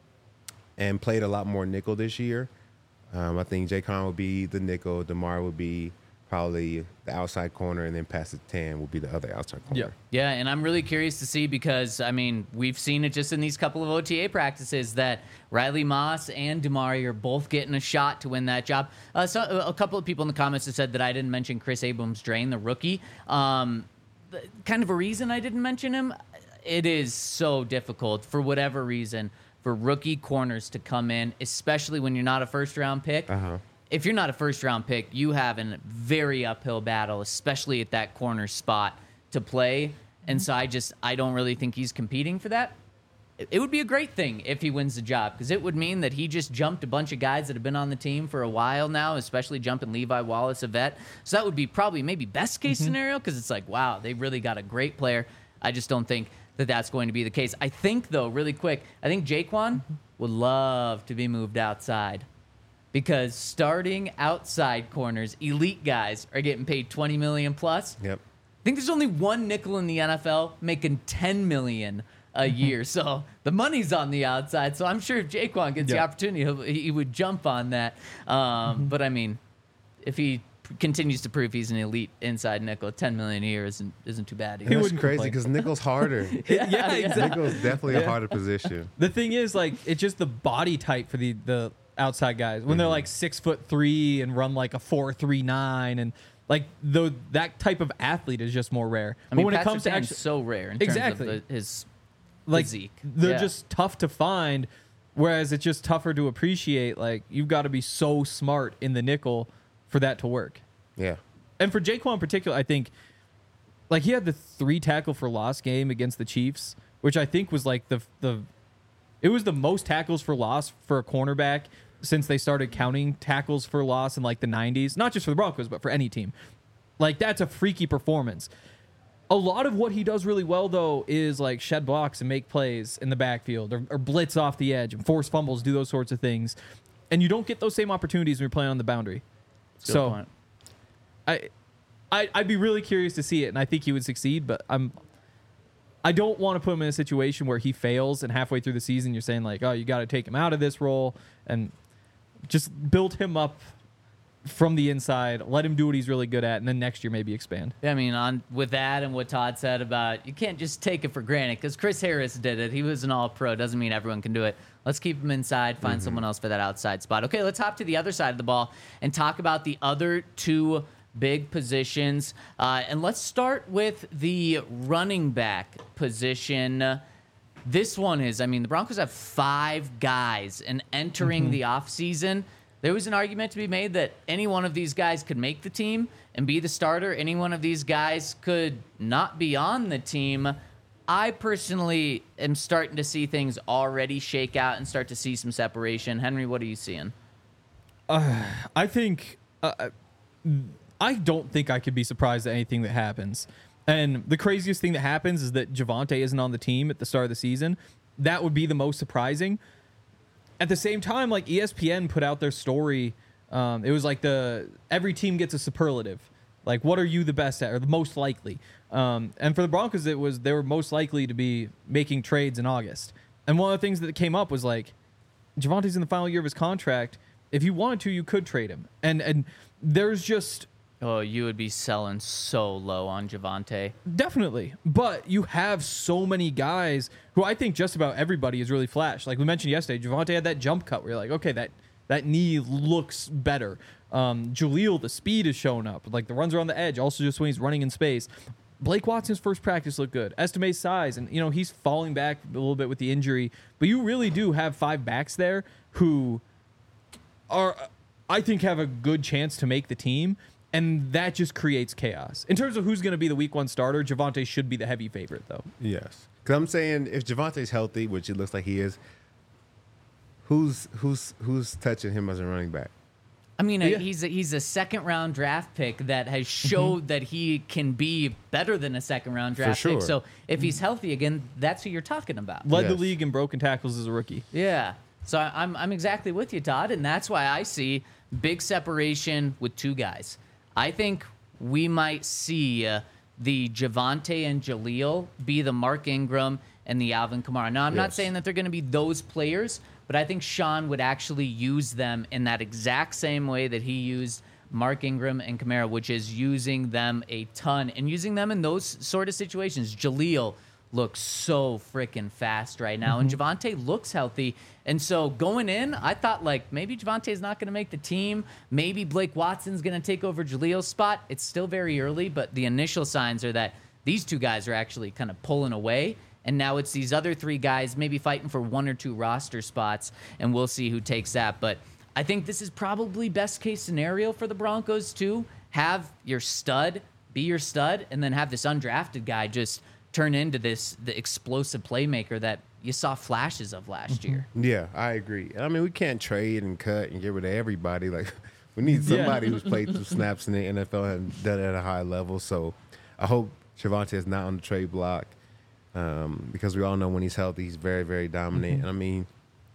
and played a lot more nickel this year, um, I think Jaquan would be the nickel, Damar would be probably the outside corner, and then Pat Surtain will be the other outside corner. Yeah, yeah, and I'm really curious to see because, I mean, we've seen it just in these couple of O T A practices that Riley Moss and Damari are both getting a shot to win that job. Uh, so a couple of people in the comments have said that I didn't mention Chris Abrams-Draine, the rookie. Um, kind of a reason I didn't mention him, it is so difficult for whatever reason for rookie corners to come in, especially when you're not a first-round pick. Uh-huh. If you're not a first-round pick, you have a very uphill battle, especially at that corner spot to play. And so I just, I don't really think he's competing for that. It would be a great thing if he wins the job because it would mean that he just jumped a bunch of guys that have been on the team for a while now, especially jumping Levi Wallace, a vet. So that would be probably maybe best-case mm-hmm. scenario because it's like, wow, they really got a great player. I just don't think that that's going to be the case. I think, though, really quick, I think Jaquan would love to be moved outside. Because starting outside corners, elite guys are getting paid twenty million dollars plus. Yep. I think there's only one nickel in the N F L making ten million dollars a year. So the money's on the outside. So I'm sure if Jaquan gets the Yeah. opportunity, he'll, he would jump on that. Um, Mm-hmm. But I mean, if he p- continues to prove he's an elite inside nickel, ten million a year isn't isn't too bad. And Either. that's wouldn't crazy complain. because nickel's harder. yeah, exactly. Nickel's definitely a Yeah. harder position. The thing is, like, it's just the body type for the the outside guys when they're like six foot three and run like a four three nine, and like the that type of athlete is just more rare. I mean, but when Patrick it comes to Surtain's actually, so rare in Exactly. terms of the, his like, physique. they're Yeah. just tough to find. Whereas it's just tougher to appreciate. Like, you've got to be so smart in the nickel for that to work. Yeah. And for Jaquan in particular, I think, like, he had the three tackle for loss game against the Chiefs, which I think was like the the it was the most tackles for loss for a cornerback since they started counting tackles for loss in like the nineties. Not just for the Broncos, but for any team. Like, that's a freaky performance. A lot of what he does really well, though, is like shed blocks and make plays in the backfield, or, or blitz off the edge and force fumbles, do those sorts of things. And you don't get those same opportunities when you're playing on the boundary. Good So point. I, I, I'd be really curious to see it, and I think he would succeed. But I'm, I don't want to put him in a situation where he fails, and halfway through the season, you're saying like, oh, you got to take him out of this role, and just build him up from the inside, let him do what he's really good at, and then next year maybe expand. I mean, on with that and what Todd said about you can't just take it for granted because Chris Harris did it. He was an all-pro. Doesn't mean everyone can do it. Let's keep him inside, find someone else for that outside spot. Okay, let's hop to the other side of the ball and talk about the other two big positions. Uh, and let's start with the running back position. This one is, I mean, the Broncos have five guys, and entering the offseason, there was an argument to be made that any one of these guys could make the team and be the starter. Any one of these guys could not be on the team. I personally am starting to see things already shake out and start to see some separation. Henry, what are you seeing? I think uh, I don't think I could be surprised at anything that happens. And the craziest thing that happens is that Javonte isn't on the team at the start of the season. That would be the most surprising. At the same time, like E S P N put out their story. Um, it was like the every team gets a superlative. Like, what are you the best at or the most likely? Um, and for the Broncos, it was they were most likely to be making trades in August. And one of the things that came up was like, Javonte's in the final year of his contract. If you wanted to, you could trade him. And and there's just Oh, you would be selling so low on Javonte. definitely, but you have so many guys who I think just about everybody has really flashed. Like we mentioned yesterday, Javonte had that jump cut where you're like, okay, that that knee looks better. Um, Jaleel, the speed is showing up. Like the runs are on the edge, also just when he's running in space. Blake Watson's first practice looked good. Estime's size, and you know he's falling back a little bit with the injury, but you really do have five backs there who are, I think, have a good chance to make the team. And that just creates chaos. In terms of who's going to be the week one starter, Javonte should be the heavy favorite, though. Yes. Because I'm saying if Javonte's healthy, which it looks like he is, who's who's who's touching him as a running back? I mean, Yeah. uh, he's a, he's a second round draft pick that has showed that he can be better than a second round draft sure. pick. So if he's healthy again, that's who you're talking about. Led the Yes. league in broken tackles as a rookie. Yeah. So I- I'm I'm exactly with you, Todd, and that's why I see big separation with two guys. I think we might see uh, the Javonte and Jaleel be the Mark Ingram and the Alvin Kamara. Now, I'm not Yes. saying that they're going to be those players, but I think Sean would actually use them in that exact same way that he used Mark Ingram and Kamara, which is using them a ton and using them in those sort of situations. Jaleel looks so freaking fast right now, and Javonte looks healthy. And so going in, I thought like maybe Javonte's not going to make the team. Maybe Blake Watson's going to take over Jaleel's spot. It's still very early, but the initial signs are that these two guys are actually kind of pulling away. And now it's these other three guys maybe fighting for one or two roster spots, and we'll see who takes that. But I think this is probably best case scenario for the Broncos too. Have your stud be your stud, and then have this undrafted guy just turn into this the explosive playmaker that you saw flashes of last year. Yeah, I agree. I mean, we can't trade and cut and get rid of everybody. Like, we need Yeah. somebody who's played through snaps in the N F L and done it at a high level. So I hope Javonte is not on the trade block um, because we all know when he's healthy, he's very, very dominant. And I mean,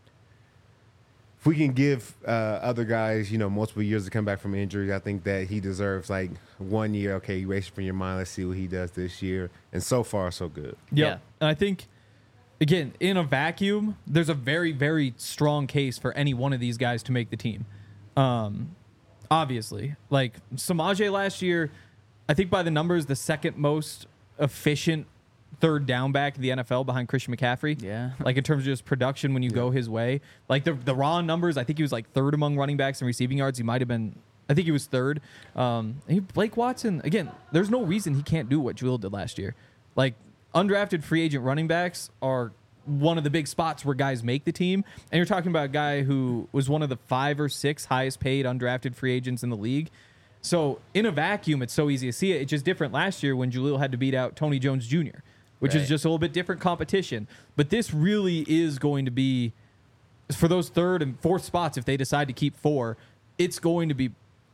if we can give uh, other guys, you know, multiple years to come back from injury, I think that he deserves like one year. Okay, erase it from your mind. Let's see what he does this year. And so far, so good. Yep. Yeah. And I think again, in a vacuum, there's a very, very strong case for any one of these guys to make the team. Um, obviously, like Samaje last year, I think by the numbers, the second most efficient third down back in the N F L behind Christian McCaffrey. Yeah. Like in terms of just production when you yeah. go his way. Like the the raw numbers, I think he was like third among running backs in receiving yards. He might have been, I think he was third. Um, he, Blake Watson, again, there's no reason he can't do what Jewel did last year. Like undrafted free agent running backs are one of the big spots where guys make the team. And you're talking about a guy who was one of the five or six highest paid undrafted free agents in the league. So in a vacuum, it's so easy to see it. It's just different last year when Jaleel had to beat out Tony Jones Junior, which right. is just a little bit different competition. But this really is going to be, for those third and fourth spots, if they decide to keep four, it's going to be,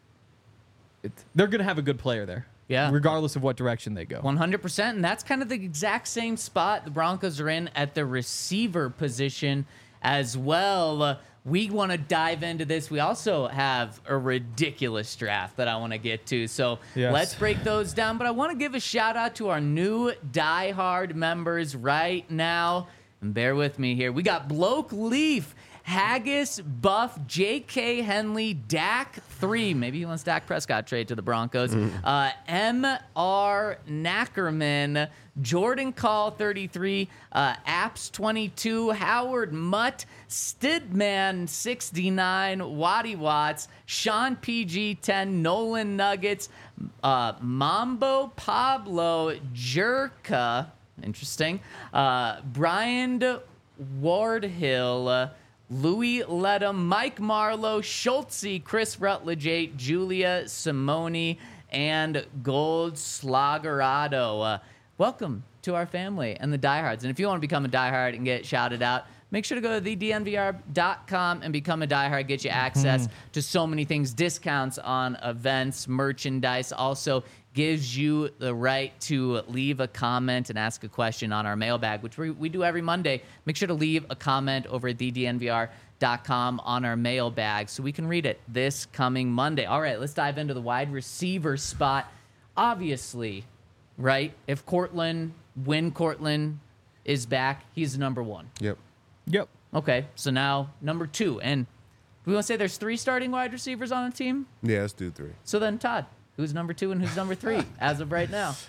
it, they're going to have a good player there. Yeah. Regardless of what direction they go. one hundred percent. And that's kind of the exact same spot the Broncos are in at the receiver position as well. Uh, we want to dive into this. We also have a ridiculous draft that I want to get to. So yes. let's break those down. But I want to give a shout out to our new diehard members right now. And bear with me here. We got Bloke Leaf, Haggis, Buff, J K Henley, Dak three. Maybe he wants Dak Prescott trade to the Broncos. Mm. Uh, M R Knackerman, Jordan Call thirty-three, uh, Apps twenty-two, Howard Mutt, Stidman sixty-nine, Waddy Watts, Sean P G ten, Nolan Nuggets, uh, Mambo Pablo Jerka, interesting, uh, Brian Wardhill, uh, Louis Ledham, Mike Marlowe, Schultze, Chris Rutledge, Julia Simone, and Gold Slagerado. Uh, welcome to our family and the diehards. And if you want to become a diehard and get shouted out, make sure to go to the d n v r dot com and become a diehard. Get you access mm-hmm. to so many things, discounts on events, merchandise. Also gives you the right to leave a comment and ask a question on our mailbag, which we, we do every Monday. Make sure to leave a comment over at the d n v r dot com on our mailbag so we can read it this coming Monday. All right, let's dive into the wide receiver spot. Obviously, right, if Cortland, when Cortland is back, he's number one. Yep. Yep. Okay, so now number two. And we want to say there's three starting wide receivers on the team? Yeah, let's do three. So then, Todd, who's number two and who's number three as of right now?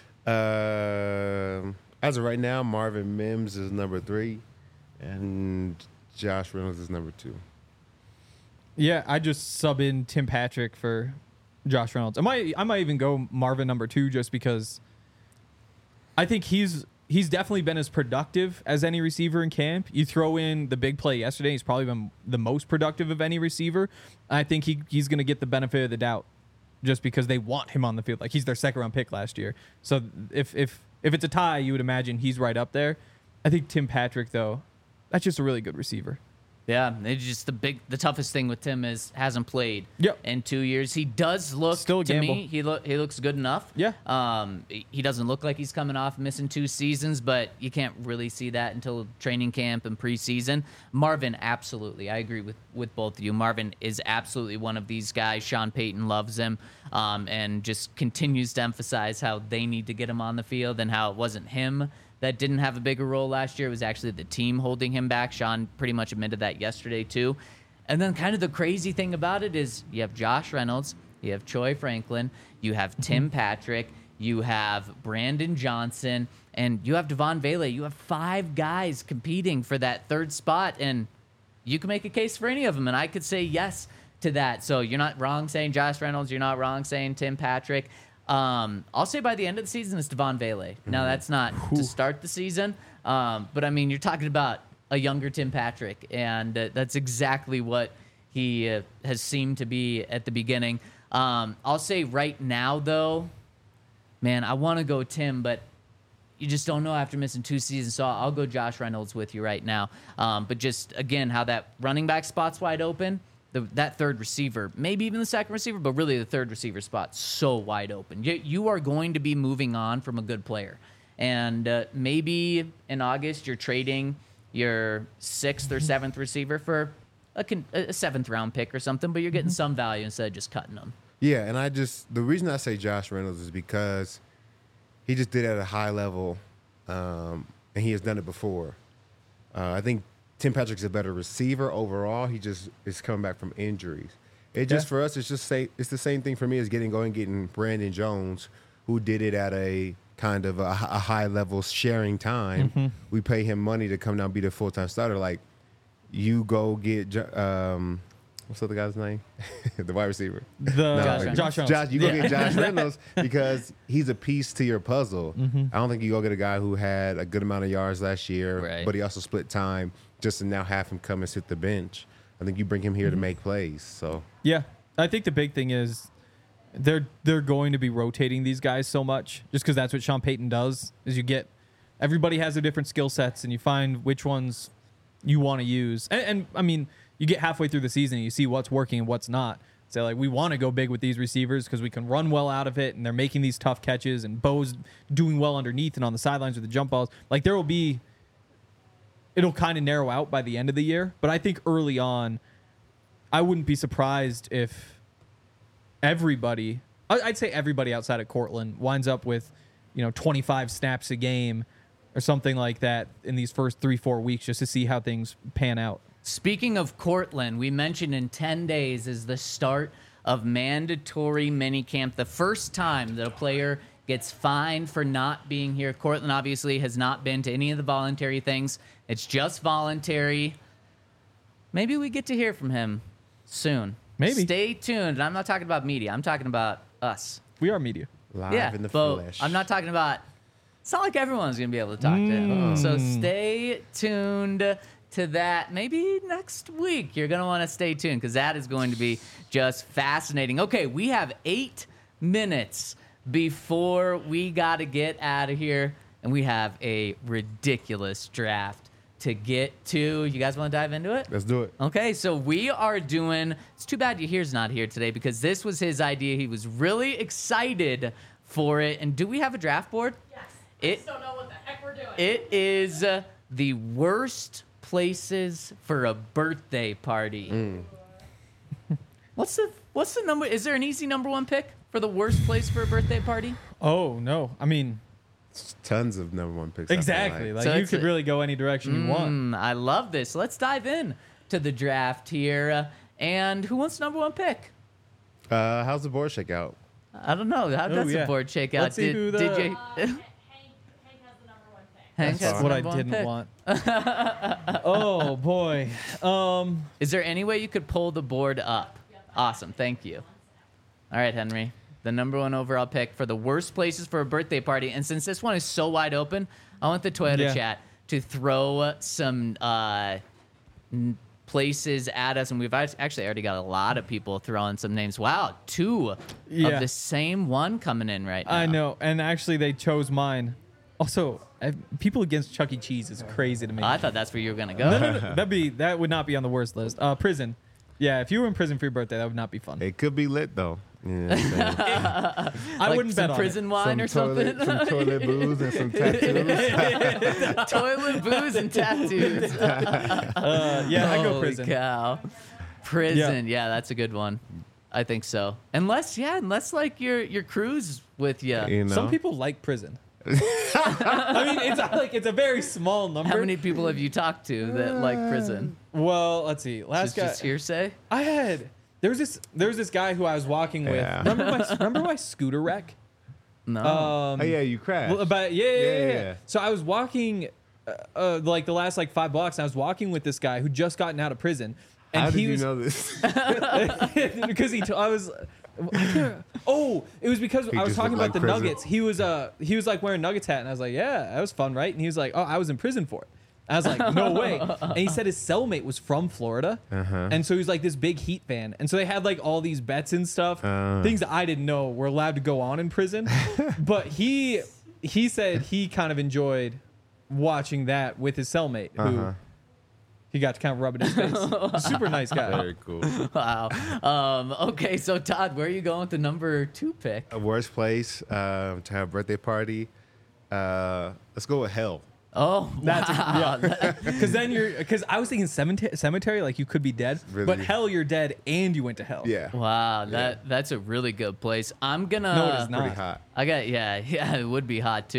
Uh, as of right now, Marvin Mims is number three, and Josh Reynolds is number two. Yeah, I just sub in Tim Patrick for Josh Reynolds. I might, I might even go Marvin number two just because I think he's he's definitely been as productive as any receiver in camp. You throw in the big play yesterday, he's probably been the most productive of any receiver. I think he he's going to get the benefit of the doubt just because they want him on the field. Like, he's their second round pick last year. So if if if it's a tie, you would imagine he's right up there. I think Tim Patrick, though, that's just a really good receiver. Yeah, it's just the big, the toughest thing with Tim is hasn't played yep. in two years. He does look Still a to gamble. me. He look he looks good enough. Yeah. Um, he doesn't look like he's coming off missing two seasons, but you can't really see that until training camp and preseason. Marvin, absolutely, I agree with with both of you. Marvin is absolutely one of these guys. Sean Payton loves him, um, and just continues to emphasize how they need to get him on the field and how it wasn't him that didn't have a bigger role last year. It was actually the team holding him back. Sean pretty much admitted that yesterday too. And then kind of the crazy thing about it is you have Josh Reynolds, you have Troy Franklin, you have Tim Patrick, you have Brandon Johnson, and you have Devon Vele. You have five guys competing for that third spot, and you can make a case for any of them, and I could say yes to that. So you're not wrong saying Josh Reynolds. You're not wrong saying Tim Patrick. Um, I'll say by the end of the season, it's Devon Vele. Now, that's not to start the season, um, but, I mean, you're talking about a younger Tim Patrick, and uh, that's exactly what he uh, has seemed to be at the beginning. Um, I'll say right now, though, man, I want to go Tim, but you just don't know after missing two seasons, so I'll go Josh Reynolds with you right now. Um, but just, again, how that running back spot's wide open. The, that third receiver, maybe even the second receiver, but really the third receiver spot, so wide open. You, you are going to be moving on from a good player. And uh, maybe in August you're trading your sixth or seventh receiver for a, con- a seventh round pick or something, but you're getting some value instead of just cutting them. Yeah, and I just, the reason I say Josh Reynolds is because he just did it at a high level, um, and he has done it before. Uh, I think Tim Patrick's a better receiver overall. He just is coming back from injuries. It just Yeah. for us, it's just say it's the same thing for me as getting going, getting Brandon Jones, who did it at a kind of a, a high level sharing time. Mm-hmm. We pay him money to come down and be the full time starter. Like you go get Jo- um, what's the other guy's name? The wide receiver. The Josh like- Josh Reynolds. Josh, you go Yeah. get Josh Reynolds because he's a piece to your puzzle. Mm-hmm. I don't think you go get a guy who had a good amount of yards last year, Right. but he also split time just to now have him come and sit the bench. I think you bring him here to make plays. So Yeah, I think the big thing is they're they're going to be rotating these guys so much just because that's what Sean Payton does. Is you get everybody has their different skill sets and you find which ones you want to use. And, and I mean, you get halfway through the season and you see what's working and what's not. So like we want to go big with these receivers because we can run well out of it and they're making these tough catches and Bo's doing well underneath and on the sidelines with the jump balls. Like there will be. It'll kind of narrow out by the end of the year, but I think early on, I wouldn't be surprised if everybody, I- I'd say everybody outside of Cortland winds up with, you know, twenty-five snaps a game or something like that in these first three, four weeks just to see how things pan out. Speaking of Cortland, we mentioned in ten days is the start of mandatory minicamp, the first time that a player gets fined for not being here. Cortland obviously has not been to any of the voluntary things. It's just voluntary. Maybe we get to hear from him soon. Maybe. Stay tuned. And I'm not talking about media. I'm talking about us. We are media. live yeah, in the but flesh. I'm not talking about. It's not like everyone's gonna be able to talk to him. So stay tuned to that. Maybe next week you're gonna want to stay tuned because that is going to be just fascinating. Okay, we have eight minutes before we got to get out of here, and we have a ridiculous draft to get to. You guys want to dive into it? Let's do it. Okay, so we are doing. It's too bad Yahir's not here today because this was his idea. He was really excited for it. And do we have a draft board? Yes. It- I just don't know what the heck we're doing. It is uh, the worst places for a birthday party. What's the What's the number? Is there an easy number one pick for the worst place for a birthday party? Oh, no. I mean, Tons of number one picks. I feel exactly. like. Like So you it's could a- really go any direction you want. Mm, I love this. Let's dive in to the draft here. Uh, and who wants number one pick? Uh, how's the board shake out? I don't know. How does yeah. the board shake out? Let's see did, who the- did you? Uh, Hank, Hank has the number one pick. Hank That's has what the I number one didn't pick. want. Oh, boy. Um, Is there any way you could pull the board up? Awesome. Thank you. All right, Henry. The number one overall pick for the worst places for a birthday party. And since this one is so wide open, I want the Toyota Yeah. chat to throw some uh, n- places at us. And we've act- actually already got a lot of people throwing some names. Wow, two Yeah. of the same one coming in right now. I know. And actually, they chose mine. Also, I, people against Chuck E. Cheese is crazy to me. I thought that's where you were going to go. no, no, no. That'd be, that would not be on the worst list. Uh, prison. Yeah, if you were in prison for your birthday, that would not be fun. It could be lit though. You know what I'm saying? I Like wouldn't some bet on prison it. wine some or toilet, something. some toilet booze and some tattoos. Toilet, booze, and tattoos. Uh, yeah, I go Holy prison. cow. Prison. Yeah. that's a good one. I think so. Unless, yeah, unless like your your crew's with you. You know? Some people like prison. I mean, it's like it's a very small number. How many people have you talked to that like prison? Well, let's see. Last Just, guy just hearsay? I had there was this there was this guy who I was walking with. Yeah. Remember my remember my scooter wreck? No. Um, Oh yeah, you crashed. well, but yeah, yeah, yeah, Yeah, yeah. yeah. So I was walking, uh, uh, like the last like five blocks. And I was walking with this guy who just gotten out of prison, and How did he you was know this? because he. T- I was. I can't- oh, it was because He I was just talking looked about like the prison. Nuggets. He was uh he was like wearing Nuggets hat, and I was like, yeah, that was fun, right? And he was like, oh, I was in prison for it. I was like, no way. And he said his cellmate was from Florida, Uh-huh. and so he was like this big Heat fan, and so they had like all these bets and stuff, Uh. things that I didn't know were allowed to go on in prison. But he he said he kind of enjoyed watching that with his cellmate, who Uh-huh. he got to kind of rub it in his face. Super nice guy. Very cool. Wow. Um, okay, so Todd, where are you going with the number two pick? A worst place um, to have a birthday party. Uh, let's go with hell. Oh, That's wow. Because then you're, because I was thinking cemetery, cemetery, like you could be dead, Really? but hell, you're dead and you went to hell. Yeah. Wow, that that's a really good place. I'm gonna. No, it is not. Pretty hot. I got yeah, yeah. It would be hot too.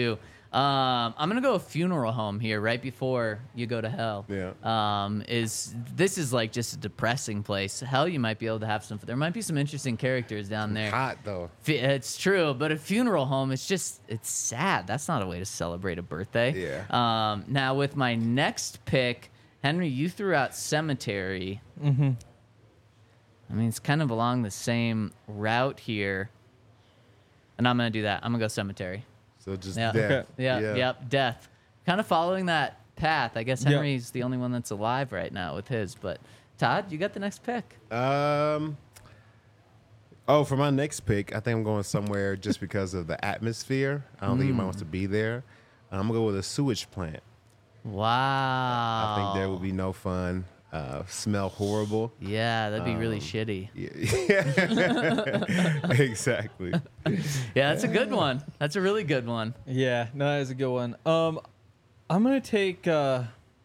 Um, I'm gonna go a funeral home here right before you go to hell. Yeah. Um, is this is like just a depressing place. Hell, you might be able to have some. There might be some interesting characters down there. Hot though. F- It's true, but a funeral home, it's just it's sad. That's not a way to celebrate a birthday. Yeah. Um, now with my next pick, Henry, you threw out cemetery. Mm-hmm. I mean, it's kind of along the same route here, and I'm gonna do that. I'm gonna go cemetery. So just Yeah. death. Okay. Yeah, yep, death. Kind of following that path. I guess Yep. Henry's the only one that's alive right now with his. But Todd, you got the next pick. Um. Oh, for my next pick, I think I'm going somewhere just because of the atmosphere. I don't think anybody wants to be there. I'm gonna go with a sewage plant. Wow. I think there will be no fun. Uh, smell horrible. Yeah, that'd be really Um, shitty. Yeah. Exactly. Yeah, that's a good one. That's a really good one. Yeah, no, that is a good one. Um, I'm gonna take. Uh,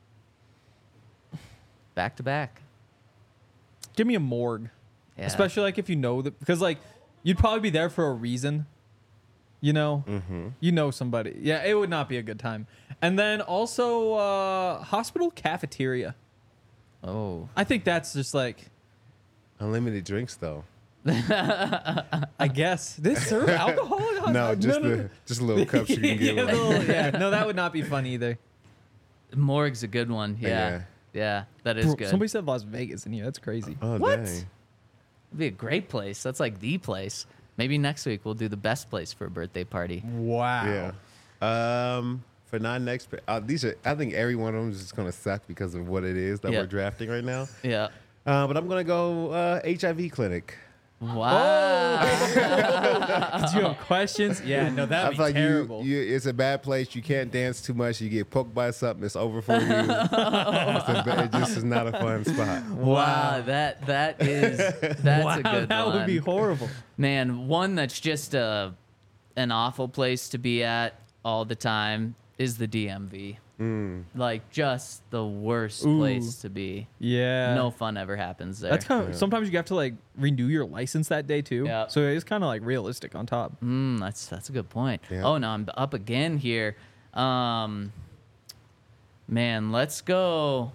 Back to back. give me a morgue, Yeah. especially like if you know that, because like you'd probably be there for a reason. You know, Mm-hmm. you know somebody. Yeah, it would not be a good time. And then also uh, hospital cafeteria. Oh. I think that's just like, Unlimited drinks though. I guess they serve alcohol. in hos- No, just the just little cups you can get. yeah, Like, little- yeah, no, that would not be fun either. Morgue's a good one. Yeah. Yeah. Yeah, that is Bro, good. somebody said Las Vegas in here. That's crazy. oh What? dang. It'd be a great place. That's like the place. Maybe next week we'll do the best place for a birthday party. Wow. Yeah. Um. For nine next, pick- uh, these are. I think every one of them is just gonna suck because of what it is that Yeah. we're drafting right now. Yeah. Uh, but I'm gonna go uh, H I V clinic. Wow. Do you have questions? Yeah, no, I that'd be feel like terrible. you, you, it's a bad place. You can't dance too much. You get poked by something. It's over for you. It's a ba- it just is not a fun spot. Wow, that that is that's wow, a good that one. would be horrible. Man, one that's just a an awful place to be at all the time is the D M V. Like just the worst Ooh. place to be. Yeah. No fun ever happens there. That's kind of sometimes you have to like renew your license that day too. Yeah. So it's kind of like realistic on top. Mm, that's that's a good point. Yeah. Oh no, I'm up again here. Um, man, let's go.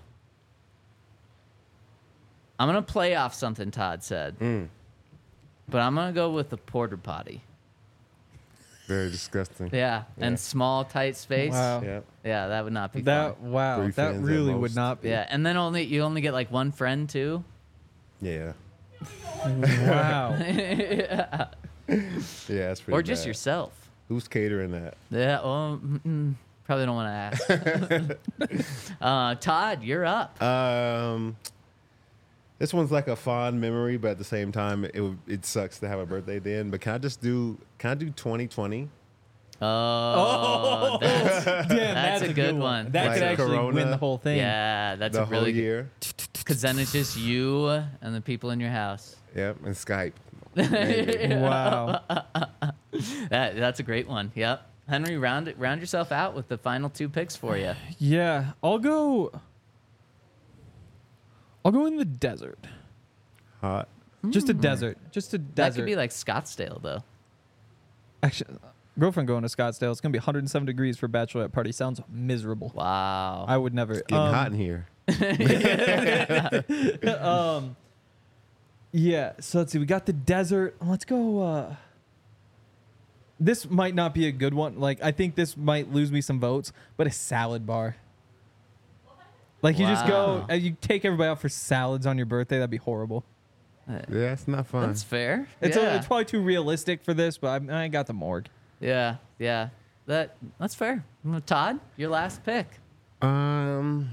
I'm gonna play off something Todd said, but I'm gonna go with the porter potty. Very disgusting. Yeah, Yeah. and small tight space. Wow. Yeah. Yeah, that would not be That fun. wow, Three that fans at really would most. not be. Yeah, and then only you only get like one friend too. Yeah. Wow. Yeah. That's pretty. Or just bad. yourself. Who's catering that? Yeah, well, mm, mm, probably don't want to ask. uh, Todd, you're up. Um, this one's like a fond memory, but at the same time, it would- it sucks to have a birthday then. But can I just do? Can I do twenty twenty? Oh, that's, Damn, That's a good one. That Like could actually Corona. win the whole thing. yeah, that's The a really whole good. year. Because then it's just you and the people in your house. Yep, and Skype. Wow. That that's a great one. Yep. Henry, round it, round yourself out with the final two picks for you. Yeah, I'll go. I'll go in the desert. Hot. Just a desert. Just a That desert. could be like Scottsdale, though. Actually, girlfriend going to Scottsdale. It's gonna be one hundred seven degrees for a bachelorette party. Sounds miserable. Wow. I would never. Getting um, hot in here. um, yeah. So let's see. We got the desert. Let's go. Uh, this might not be a good one. Like I think this might lose me some votes, but a salad bar. Like you just go Wow. and you take everybody out for salads on your birthday. That'd be horrible. Yeah, it's not fun. That's fair. It's yeah. a, it's probably too realistic for this, but I, I got the morgue. yeah, yeah. That that's fair. Well, Todd, your last pick. Um.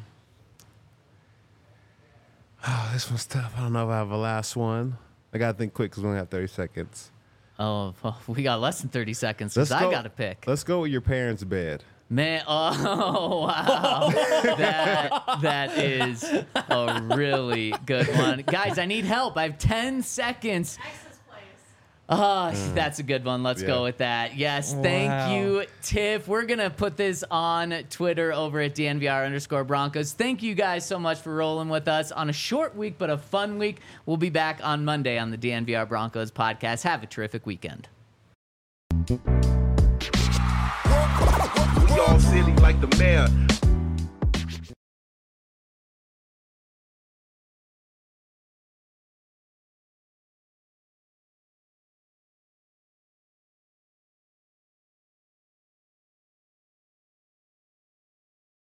Oh, this one's tough. I don't know if I have a last one. I gotta think quick because we only have thirty seconds. Oh, well, we got less than thirty seconds Let's because I go- got to pick. Let's go with your parents' bed. Man, oh wow, that that is a really good one, guys. I need help. I have ten seconds. Oh, that's a good one. Let's Yeah. go with that. Yes, thank Wow. you, Tiff. We're gonna put this on Twitter over at D N V R underscore Broncos. Thank you guys so much for rolling with us on a short week but a fun week. We'll be back on Monday on the D N V R Broncos podcast. Have a terrific weekend. Work, work, work, city like the mayor.